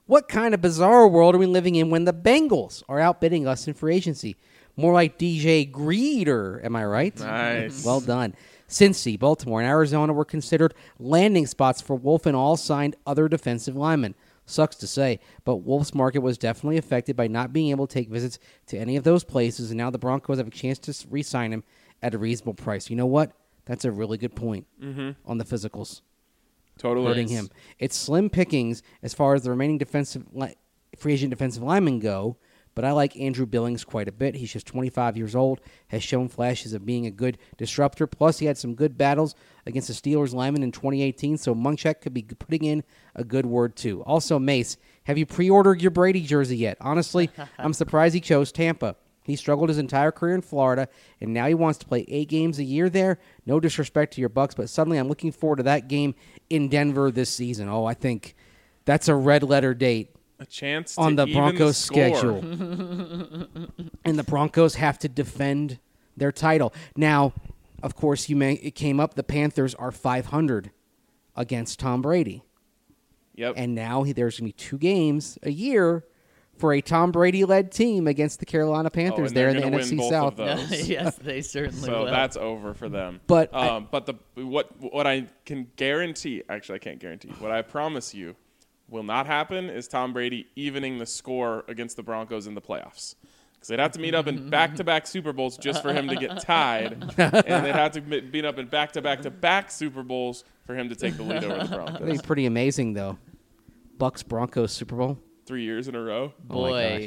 What kind of bizarre world are we living in when the Bengals are outbidding us in free agency? More like DJ Greeder, am I right? Nice. Well done. Cincy, Baltimore, and Arizona were considered landing spots for Wolf and all signed other defensive linemen. Sucks to say, but Wolf's market was definitely affected by not being able to take visits to any of those places, and now the Broncos have a chance to re-sign him at a reasonable price. You know what? That's a really good point on the physicals. Totally. Hurting him. It's slim pickings as far as the remaining free agent defensive linemen go, but I like Andrew Billings quite a bit. He's just 25 years old, has shown flashes of being a good disruptor. Plus, he had some good battles against the Steelers linemen in 2018, so Munchak could be putting in a good word, too. Also, Mace, have you pre-ordered your Brady jersey yet? Honestly, I'm surprised he chose Tampa. He struggled his entire career in Florida, and now he wants to play 8 games a year there. No disrespect to your Bucks, but suddenly I'm looking forward to that game in Denver this season. Oh, I think that's a red-letter date. A chance on to the even Broncos' score. schedule. And the Broncos have to defend their title. Now, of course, it came up, the Panthers are 500 against Tom Brady. Yep. And now there's going to be 2 games a year for a Tom Brady-led team against the Carolina Panthers and there they're in the gonna win NFC both South. of those. Yes, they certainly So will. that's over for them. But what I can guarantee, actually I can't guarantee, what I promise you will not happen is Tom Brady evening the score against the Broncos in the playoffs. Because they'd have to meet up in back-to-back Super Bowls just for him to get tied, and they'd have to meet up in back-to-back-to-back Super Bowls for him to take the lead over the that'd be Broncos. pretty amazing, though. Bucks-Broncos Super Bowl. 3 years in a row. Boy,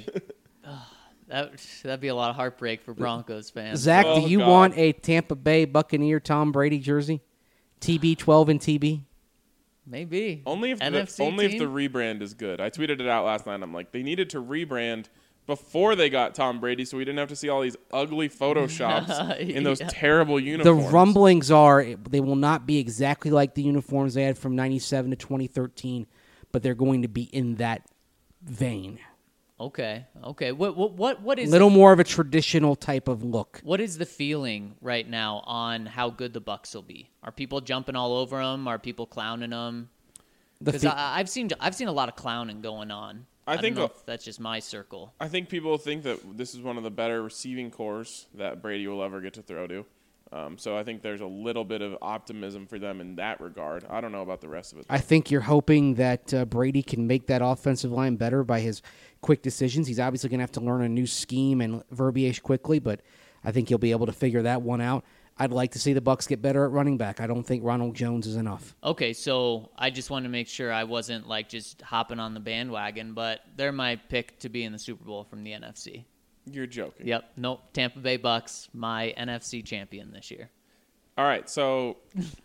that'd be a lot of heartbreak for Broncos fans. Zach, Oh, do you God. want a Tampa Bay Buccaneer Tom Brady jersey? TB12 and TB? Maybe. Only if NFC the team? rebrand is good. I tweeted it out last night. I'm like, they needed to rebrand before they got Tom Brady, so we didn't have to see all these ugly photoshops in those Yeah. terrible The uniforms. rumblings are they will not be exactly like the uniforms they had from 97 to 2013, but they're going to be in that vein. Okay. What A is little more of a traditional type of look. what is the feeling right now on how good the Bucks will be? Are people jumping all over them? Are people clowning them? The Because I've seen a lot of clowning going on. I don't think know if that's just my circle. I think people think that this is one of the better receiving cores that Brady will ever get to throw to. So I think there's a little bit of optimism for them in that regard. I don't know about the rest of it. I think you're hoping that Brady can make that offensive line better by his quick decisions. He's obviously going to have to learn a new scheme and verbiage quickly, but I think he'll be able to figure that one out. I'd like to see the Bucks get better at running back. I don't think Ronald Jones is enough. Okay, so I just wanted to make sure I wasn't like just hopping on the bandwagon, but they're my pick to be in the Super Bowl from the NFC. You're joking. Yep, nope. Tampa Bay Bucks, my NFC champion this year. All right, so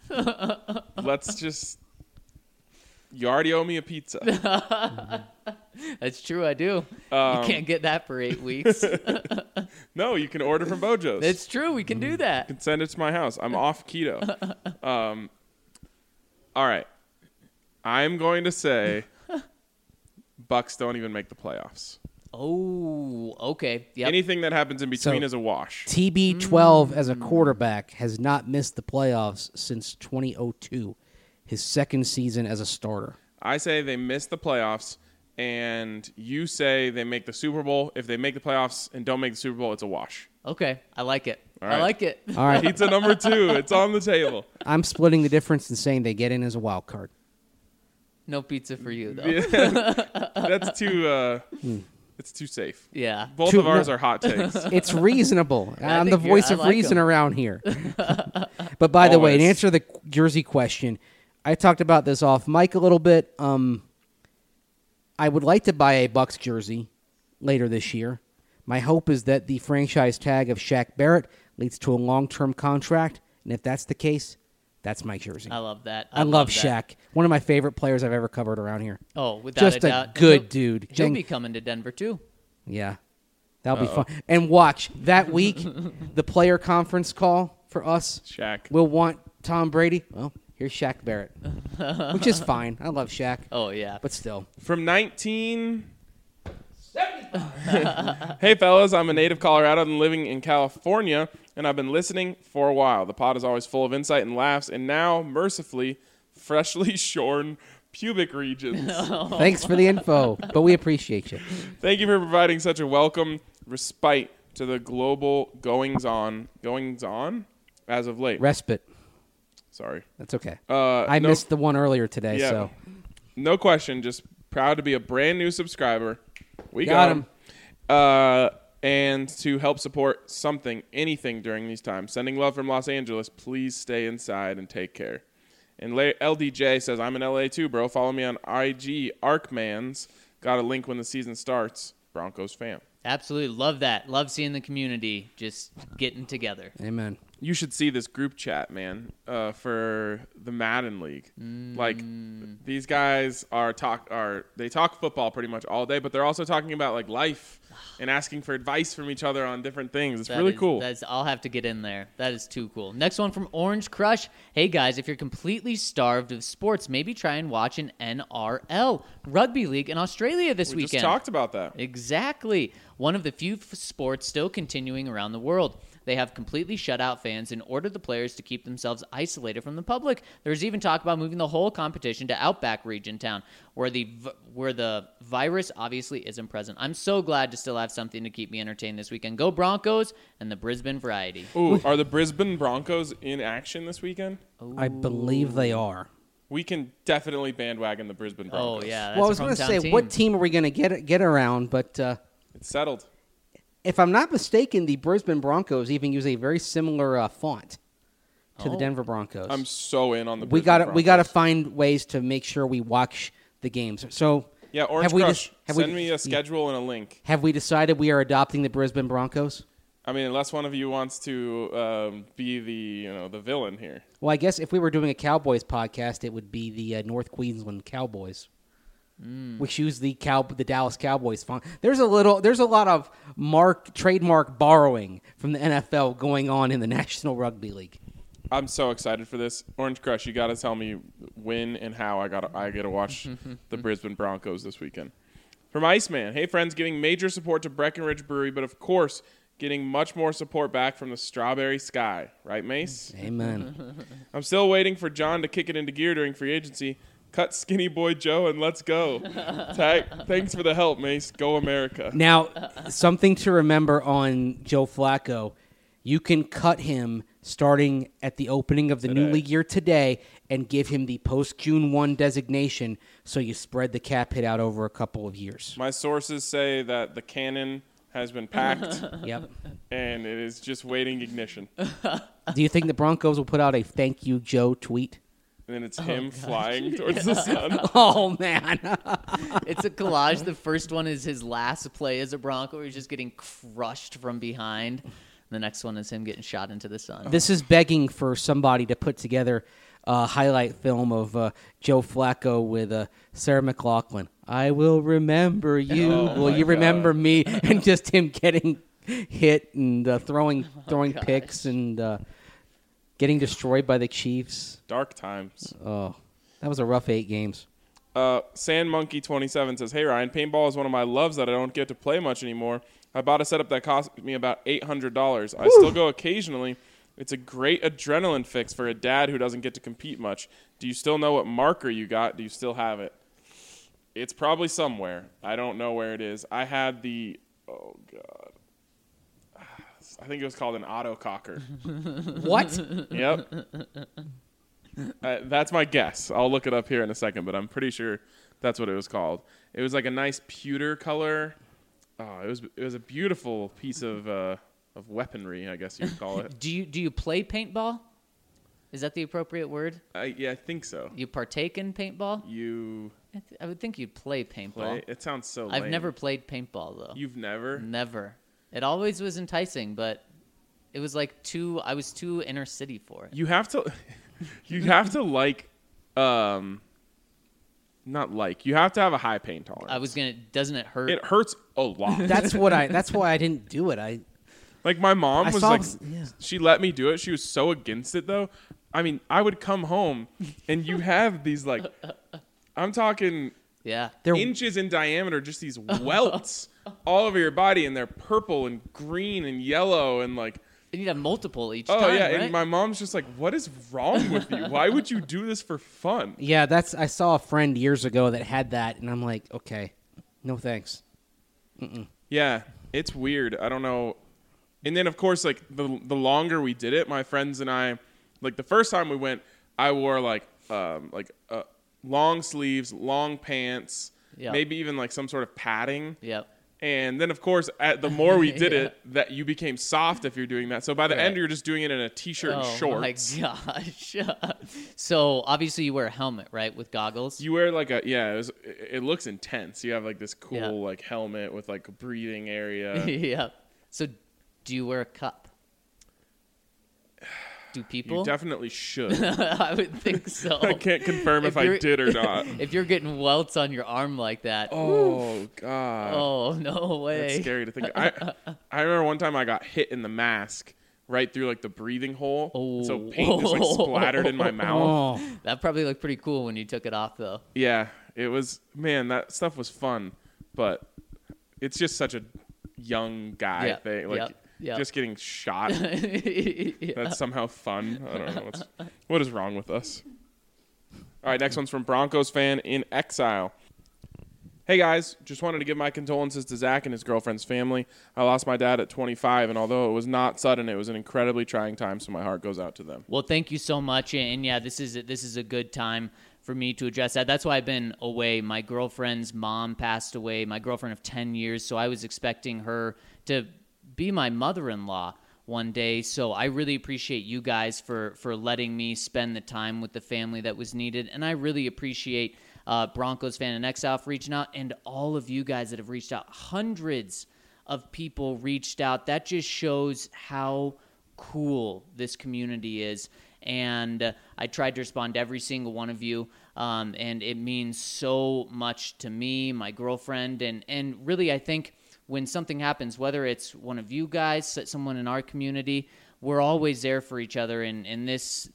let's just. You already owe me a pizza. That's true, I do. Um, You can't get that for 8 weeks. No, you can order from Bojo's. It's true, we can do that. You can send it to my house. I'm off keto. All right. I'm going to say Bucks don't even make the playoffs. Oh, okay. Yep. Anything that happens in between So- is a wash. TB12 as a quarterback has not missed the playoffs since 2002, his second season as a starter. I say they miss the playoffs, and you say they make the Super Bowl. If they make the playoffs and don't make the Super Bowl, it's a wash. Okay, I like it. All I right. like it. All right, Pizza number 2. It's on the table. I'm splitting the difference and saying they get in as a wild card. No pizza for you, though. That's too. It's too safe. Yeah. Both Too- of ours no. are hot takes. It's reasonable. I'm the think voice I of like reason 'em. around here. But by the way, to Always. answer the jersey question, I talked about this off mic a little bit. I would like to buy a Bucks jersey later this year. My hope is that the franchise tag of Shaq Barrett leads to a long-term contract, and if that's the case, that's my jersey. I love that. I love that. Shaq. One of my favorite players I've ever covered around here. Oh, without Just a a doubt. good He'll- dude. He'll Jeng- be coming to Denver, too. Yeah. That'll be fun. And watch, that week, the player conference call for us Shaq. will want Tom Brady. Well, here's Shaq Barrett, which is fine. I love Shaq, Oh, yeah. but still. From 19. Hey, fellas, I'm a native Colorado and living in California, and I've been listening for a while. The pod is always full of insight and laughs, and now, mercifully, freshly shorn pubic regions. Thanks for the info, but we appreciate you. Thank you for providing such a welcome respite to the global goings on as of late. Respite. Sorry. That's okay. I missed the one earlier today, so. No question. Just proud to be a brand new subscriber. We Got him. And to help support anything during these times. Sending love from Los Angeles. Please stay inside and take care. And LDJ says, I'm in LA too, bro. Follow me on IG. Arkmans. Got a link when the season starts. Broncos fam. Absolutely. Love that. Love seeing the community just getting together. Amen. You should see this group chat, man, for the Madden League. Like, these guys they talk football pretty much all day, but they're also talking about, like, life and asking for advice from each other on different things. It's really cool. I'll have to get in there. That is too cool. Next one from Orange Crush. Hey, guys, if you're completely starved of sports, maybe try and watch an NRL rugby league in Australia this weekend. We just talked about that. Exactly. One of the few sports still continuing around the world. They have completely shut out fans and ordered the players to keep themselves isolated from the public. There's even talk about moving the whole competition to Outback Region Town, where the virus obviously isn't present. I'm so glad to still have something to keep me entertained this weekend. Go Broncos and the Brisbane Variety. Ooh, are the Brisbane Broncos in action this weekend? I believe they are. We can definitely bandwagon the Brisbane Broncos. Oh, yeah. That's Well, I was going to say, what team are we going to get around? But it's settled. if I'm not mistaken, the Brisbane Broncos even use a very similar font to the Denver Broncos. I'm so in on the Brisbane Broncos. We got to find ways to make sure we watch the games. So yeah, Orange Crush, send me a schedule and a link. Have we decided we are adopting the Brisbane Broncos? I mean, unless one of you wants to be the villain here. Well, I guess if we were doing a Cowboys podcast, it would be the North Queensland Cowboys. Which use the Dallas Cowboys font. There's a lot of trademark borrowing from the NFL going on in the National Rugby League. I'm so excited for this. Orange Crush, you got to tell me when and how I get to watch the Brisbane Broncos this weekend. From Iceman, hey friends, giving major support to Breckenridge Brewery, but of course getting much more support back from the Strawberry Sky, right, Mace? Amen. I'm still waiting for John to kick it into gear during free agency. Cut Skinny Boy Joe and let's go. Thanks for the help, Mace. Go America. Now, something to remember on Joe Flacco. You can cut him starting at the opening of the new league year today and give him the post-June 1 designation so you spread the cap hit out over a couple of years. My sources say that the cannon has been packed. Yep. And it is just waiting ignition. Do you think the Broncos will put out a thank you, Joe tweet? And then it's him flying towards the sun. Oh, man. It's a collage. The first one is his last play as a Bronco where he's just getting crushed from behind. The next one is him getting shot into the sun. This is begging for somebody to put together a highlight film of Joe Flacco with Sarah McLachlan. I will remember you. Will you remember me? And just him getting hit and throwing picks and getting destroyed by the Chiefs. Dark times. Oh, that was a rough 8 games. Sand Monkey 27 says, hey, Ryan, paintball is one of my loves that I don't get to play much anymore. I bought a setup that cost me about $800. I still go occasionally. It's a great adrenaline fix for a dad who doesn't get to compete much. Do you still know what marker you got? Do you still have it? It's probably somewhere. I don't know where it is. I had the, oh, God. I think it was called an autococker. What? Yep. That's my guess. I'll look it up here in a second, but I'm pretty sure that's what it was called. It was like a nice pewter color. Oh, it was a beautiful piece of weaponry, I guess you'd call it. Do you play paintball? Is that the appropriate word? Yeah, I think so. You partake in paintball? I would think you'd play paintball. Play? It sounds so lame. I've never played paintball, though. You've never? Never. It always was enticing, but it was like I was too inner city for it. You have to like, not like, you have to have a high pain tolerance. Doesn't it hurt? It hurts a lot. That's why I didn't do it. Like my mom she let me do it. She was so against it though. I mean, I would come home and you have these like, I'm talking they're inches in diameter, just these welts all over your body, and they're purple and green and yellow, and like You need to have multiple each Oh, time, yeah. right? And my mom's just like, what is wrong with you? Why would you do this for fun? Yeah, I saw a friend years ago that had that, and I'm like, okay, no thanks. Yeah, it's weird. I don't know. And then, of course, like the longer we did it, my friends and I, like the first time we went, I wore long sleeves, long pants, Yep. maybe even like some sort of padding. Yep. And then, of course, the more we did Yeah. it, that you became soft if you're doing that. So by the end, you're just doing it in a T-shirt and shorts. Oh, my gosh. So, obviously, you wear a helmet, right, with goggles? You wear like it looks intense. You have like this cool Yeah. like helmet with like a breathing area. Yeah. So, do you wear a cup? Do people? You definitely should. I would think so. I can't confirm if I you're- did or not. If you're getting welts on your arm like that, Oh God. oh, no way. That's scary to think. I remember one time I got hit in the mask right through like the breathing hole. Oh. So paint just like splattered in my mouth. Oh, That probably looked pretty cool when you took it off, though. Yeah, it was. Man, that stuff was fun, but it's just such a young guy Yep, thing. Like yep. just getting shot. Yeah. That's somehow fun. I don't know what is wrong with us. All right, next one's from Broncos fan in exile. Hey guys, just wanted to give my condolences to Zach and his girlfriend's family. I lost my dad at 25, and although it was not sudden, it was an incredibly trying time, so my heart goes out to them. Well, thank you so much, and yeah, this is a good time for me to address that. That's why I've been away. My girlfriend's mom passed away, my girlfriend of 10 years, so I was expecting her to be my mother-in-law one day. So I really appreciate you guys for letting me spend the time with the family that was needed, and I really appreciate Broncos fan in exile for reaching out, and all of you guys that have reached out. Hundreds of people reached out. That just shows how cool this community is. And I tried to respond to every single one of you, and it means so much to me, my girlfriend, and really I think when something happens, whether it's one of you guys, someone in our community, we're always there for each other, and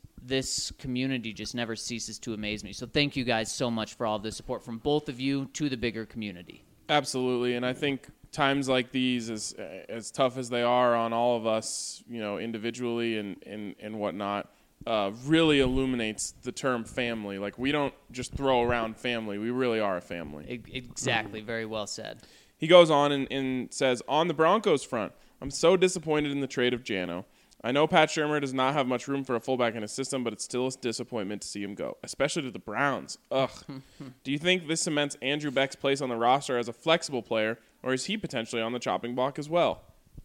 this community just never ceases to amaze me. So thank you guys so much for all the support from both of you to the bigger community. Absolutely, and I think times like these, as tough as they are on all of us, individually and whatnot, really illuminates the term family. Like, we don't just throw around family. We really are a family. Exactly. Very well said. He goes on and says, on the Broncos front, I'm so disappointed in the trade of Jano. I know Pat Shurmur does not have much room for a fullback in his system, but it's still a disappointment to see him go, especially to the Browns. Ugh. Do you think this cements Andrew Beck's place on the roster as a flexible player, or is he potentially on the chopping block as well?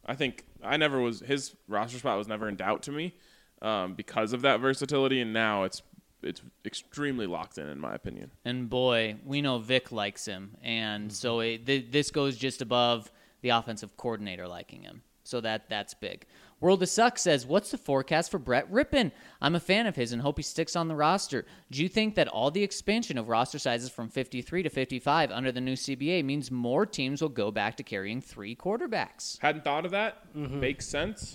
His roster spot was never in doubt to me because of that versatility, and now it's extremely locked in my opinion. And boy, we know Vic likes him, and so this goes just above the offensive coordinator liking him. So that's big. World of Suck says, what's the forecast for Brett Rippon? I'm a fan of his and hope he sticks on the roster. Do you think that all the expansion of roster sizes from 53 to 55 under the new CBA means more teams will go back to carrying 3 quarterbacks? Hadn't thought of that. Makes sense.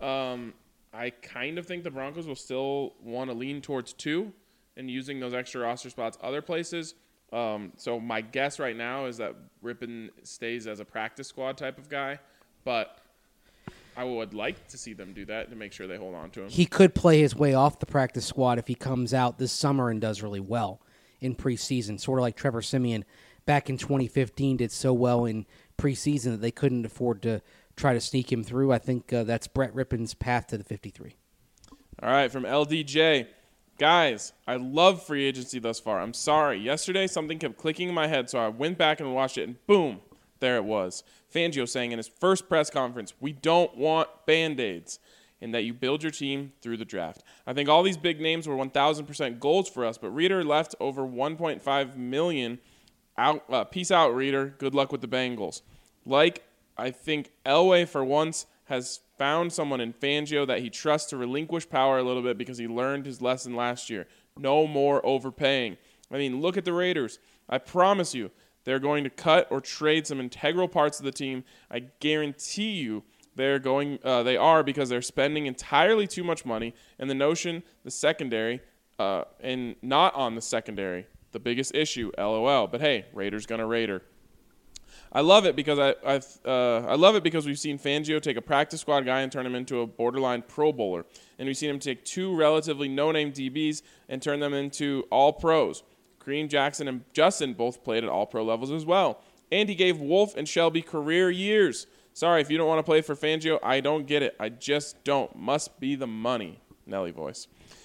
I kind of think the Broncos will still want to lean towards 2 and using those extra roster spots other places. So my guess right now is that Rippon stays as a practice squad type of guy, but I would like to see them do that to make sure they hold on to him. he could play his way off the practice squad if he comes out this summer and does really well in preseason, sort of like Trevor Siemian back in 2015 did so well in preseason that they couldn't afford to try to sneak him through. I think that's Brett Rippon's path to the 53. All right, from LDJ. Guys, I love free agency thus far. I'm sorry. Yesterday, something kept clicking in my head, so I went back and watched it, and boom, there it was. Fangio saying in his first press conference, we don't want Band-Aids, and that you build your team through the draft. I think all these big names were 1,000% golds for us, but Reader left over $1.5 million. Peace out, Reader. Good luck with the Bengals. I think Elway, for once, has found someone in Fangio that he trusts to relinquish power a little bit because he learned his lesson last year. No more overpaying. I mean, look at the Raiders. I promise you, they're going to cut or trade some integral parts of the team. I guarantee you they are because they're spending entirely too much money, and the secondary, and not on the secondary. The biggest issue, LOL. But hey, Raiders gonna Raider. I love it because I love it because we've seen Fangio take a practice squad guy and turn him into a borderline Pro Bowler, and we've seen him take two relatively no-name DBs and turn them into all pros. Kareem Jackson and Justin both played at all pro levels as well, and he gave Wolf and Shelby career years. Sorry if you don't want to play for Fangio. I don't get it. I just don't. Must be the money. Nelly voice.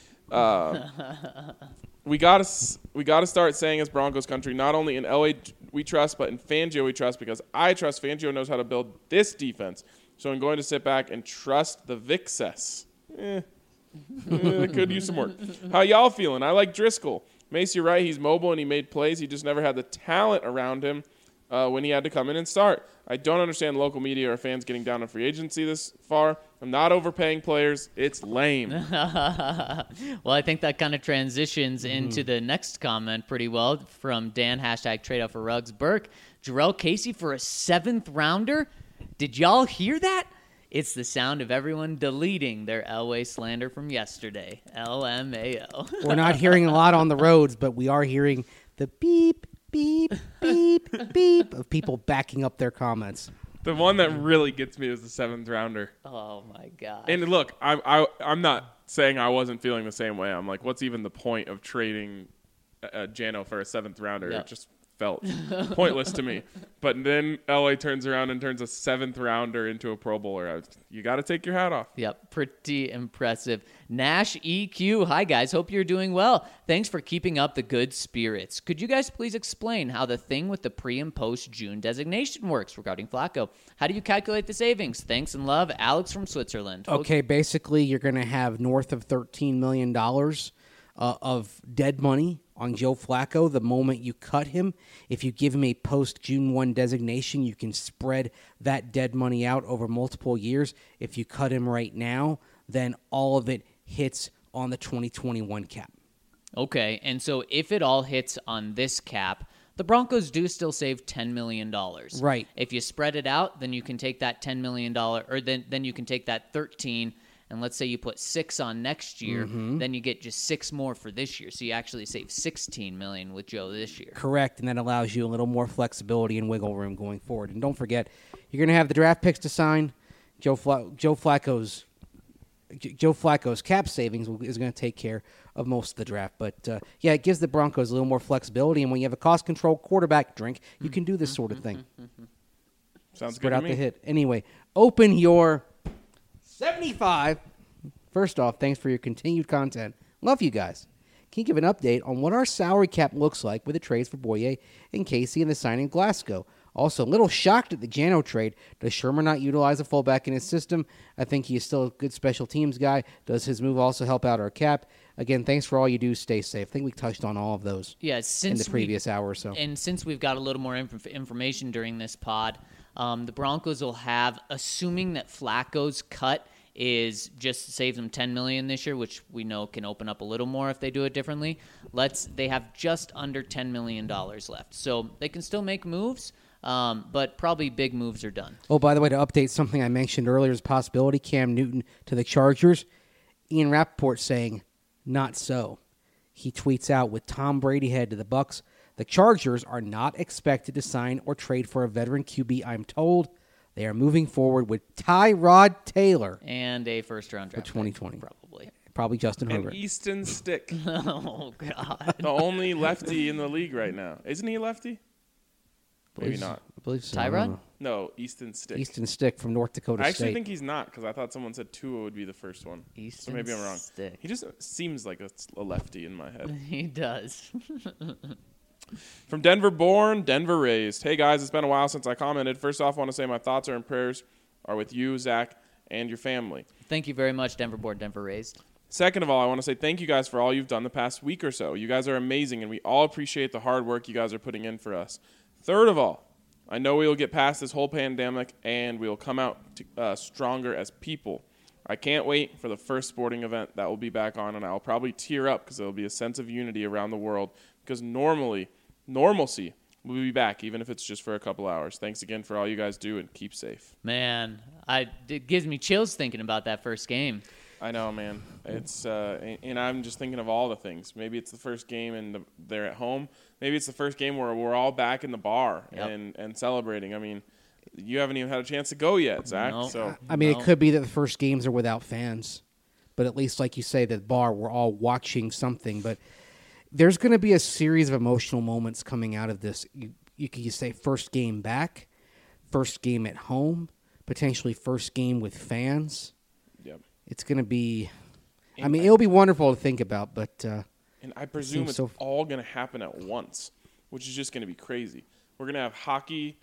We gotta start saying as Broncos country, not only in LA we trust, but in Fangio we trust, because I trust Fangio knows how to build this defense. So I'm going to sit back and trust the Vixess. Could use some work. How y'all feeling? I like Driscoll. Mace, you're right. He's mobile and he made plays. He just never had the talent around him when he had to come in and start. I don't understand local media or fans getting down on free agency this far. I'm not overpaying players. It's lame. Well, I think that kind of transitions into the next comment pretty well from Dan, #TradeOut for Ruggs. Burke, Jarrell Casey for a 7th rounder? Did y'all hear that? It's the sound of everyone deleting their Elway slander from yesterday. LMAO. We're not hearing a lot on the roads, but we are hearing the beep, beep, beep, beep of people backing up their comments. The one that really gets me is the 7th rounder. Oh, my God. And look, I'm not saying I wasn't feeling the same way. I'm like, what's even the point of trading Jano for a 7th rounder? Yep. It just felt pointless to me. But then LA turns around and turns a 7th rounder into a Pro Bowler. You got to take your hat off. Yep, pretty impressive. Nash EQ, hi guys, hope you're doing well. Thanks for keeping up the good spirits. Could you guys please explain how the thing with the pre and post June designation works regarding Flacco? How do you calculate the savings? Thanks and love, Alex from Switzerland. Okay, basically you're going to have north of $13 million of dead money on Joe Flacco the moment you cut him. If you give him a post-June 1 designation, you can spread that dead money out over multiple years. If you cut him right now, then all of it hits on the 2021 cap. Okay, and so if it all hits on this cap, the Broncos do still save $10 million. Right. If you spread it out, then you can take that $10 million, or then you can take that 13, and let's say you put 6 on next year, then you get just 6 more for this year. So you actually save $16 million with Joe this year. Correct, and that allows you a little more flexibility and wiggle room going forward. And don't forget, you're going to have the draft picks to sign. Joe Flacco's cap savings is going to take care of most of the draft. But, yeah, it gives the Broncos a little more flexibility. And when you have a cost-controlled quarterback, you can do this sort of thing. Sounds Spread good to out me. the hit. Anyway, open your 75. First off, thanks for your continued content. Love you guys. Can you give an update on what our salary cap looks like with the trades for Boye and Casey and the signing of Glasgow? Also, a little shocked at the Jano trade. Does Sherman not utilize a fullback in his system? I think he is still a good special teams guy. Does his move also help out our cap? Again, thanks for all you do. Stay safe. I think we touched on all of those in the previous hour or so. And since we've got a little more information during this pod, the Broncos will have, assuming that Flacco's cut is just to save them $10 million this year, which we know can open up a little more if they do it differently. They have just under $10 million left. So they can still make moves, but probably big moves are done. Oh, by the way, to update something I mentioned earlier as a possibility, Cam Newton to the Chargers. Ian Rappaport saying, not so. He tweets out, with Tom Brady headed to the Bucs, the Chargers are not expected to sign or trade for a veteran QB, I'm told. They are moving forward with Tyrod Taylor. And a first-round draft for 2020. probably. Probably Justin And Herbert. Easton Stick, Oh, God. the only lefty in the league right now. Isn't he a lefty? Maybe not. I believe so. Tyrod? I don't know. No, Easton Stick. Easton Stick from North Dakota I actually State. think he's not, because I thought someone said Tua would be the first one. So Easton maybe I'm wrong. Stick. He just seems like a lefty in my head. He does. From Denver born, Denver raised. Hey guys, it's been a while since I commented. First off, I want to say my thoughts and prayers are with you, Zach, and your family. Thank you very much, Denver born, Denver raised. Second of all, I want to say thank you guys for all you've done the past week or so. You guys are amazing, and we all appreciate the hard work you guys are putting in for us. Third of all, I know we will get past this whole pandemic, and we will come out stronger as people. I can't wait for the first sporting event that will be back on, and I'll probably tear up because there will be a sense of unity around the world, because normalcy will be back, even if it's just for a couple hours. Thanks again for all you guys do, and keep safe. Man, it gives me chills thinking about that first game. I know, man. It's and I'm just thinking of all the things. Maybe it's the first game and they're at home. Maybe it's the first game where we're all back in the bar and celebrating. I mean, you haven't even had a chance to go yet, Zach. No. So I mean, it could be that the first games are without fans, but at least, like you say, the bar, we're all watching something. But there's going to be a series of emotional moments coming out of this. You could say first game back, first game at home, potentially first game with fans. Yep. It's going to be. I mean, it'll be wonderful to think about, but. And I presume it's all going to happen at once, which is just going to be crazy. We're going to have hockey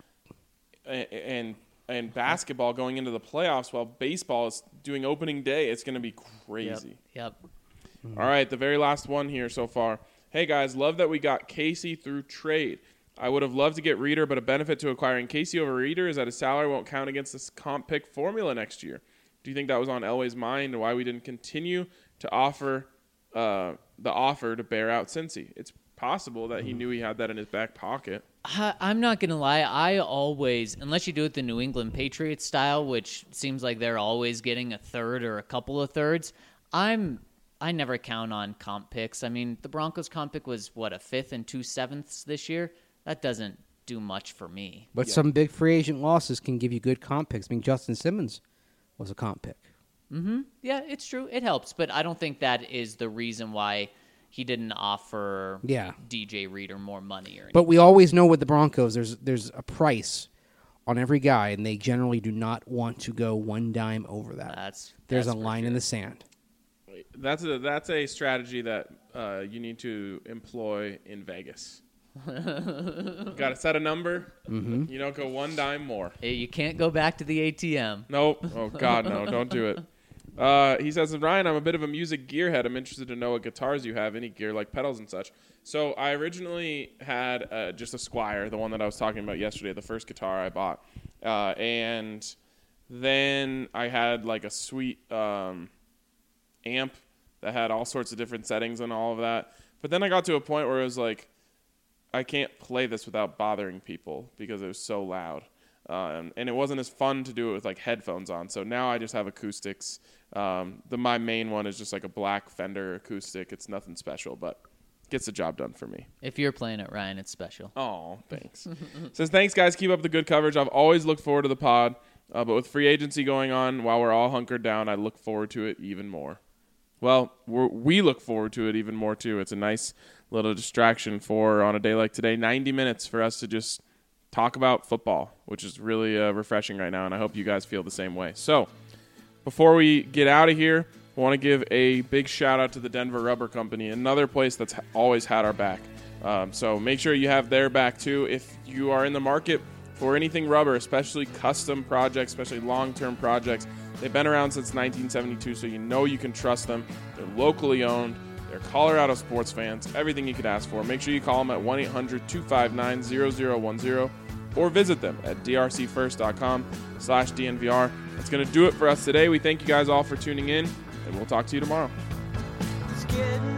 and basketball going into the playoffs while baseball is doing opening day. It's going to be crazy. Yep. All right, the very last one here so far. Hey, guys, love that we got Casey through trade. I would have loved to get Reeder, but a benefit to acquiring Casey over Reeder is that his salary won't count against this comp pick formula next year. Do you think that was on Elway's mind and why we didn't continue to offer the offer to bear out Cincy? It's possible that he knew he had that in his back pocket. I'm not going to lie. I always, unless you do it the New England Patriots style, which seems like they're always getting a third or a couple of thirds, I never count on comp picks. I mean, the Broncos comp pick was, a fifth and 2/7 this year? That doesn't do much for me. But some big free agent losses can give you good comp picks. I mean, Justin Simmons was a comp pick. Mm-hmm. Yeah, it's true. It helps, but I don't think that is the reason why he didn't offer DJ Reeder more money or anything. But we always know with the Broncos, there's a price on every guy, and they generally do not want to go one dime over that. There's a line in the sand. That's a strategy that you need to employ in Vegas. Got to set a number. Mm-hmm. You don't go one dime more. Hey, you can't go back to the ATM. Nope. Oh, God, no. Don't do it. He says, Ryan, I'm a bit of a music gearhead. I'm interested to know what guitars you have, any gear like pedals and such. So I originally had just a Squier, the one that I was talking about yesterday, the first guitar I bought. And then I had like a sweet amp that had all sorts of different settings and all of that. But then I got to a point where it was like, I can't play this without bothering people because it was so loud. And it wasn't as fun to do it with like headphones on. So now I just have acoustics. My main one is just like a black Fender acoustic. It's nothing special, but gets the job done for me. If you're playing it, Ryan, it's special. Oh, thanks. Says, thanks, guys. Keep up the good coverage. I've always looked forward to the pod. But with free agency going on while we're all hunkered down, I look forward to it even more. Well, we look forward to it even more, too. It's a nice little distraction for, on a day like today, 90 minutes for us to just talk about football, which is really refreshing right now, and I hope you guys feel the same way. So, before we get out of here, I want to give a big shout-out to the Denver Rubber Company, another place that's always had our back. So make sure you have their back, too. If you are in the market for anything rubber, especially custom projects, especially long-term projects, they've been around since 1972, so you know you can trust them. They're locally owned. They're Colorado sports fans. Everything you could ask for. Make sure you call them at 1-800-259-0010 or visit them at drcfirst.com/DNVR. That's going to do it for us today. We thank you guys all for tuning in, and we'll talk to you tomorrow. It's getting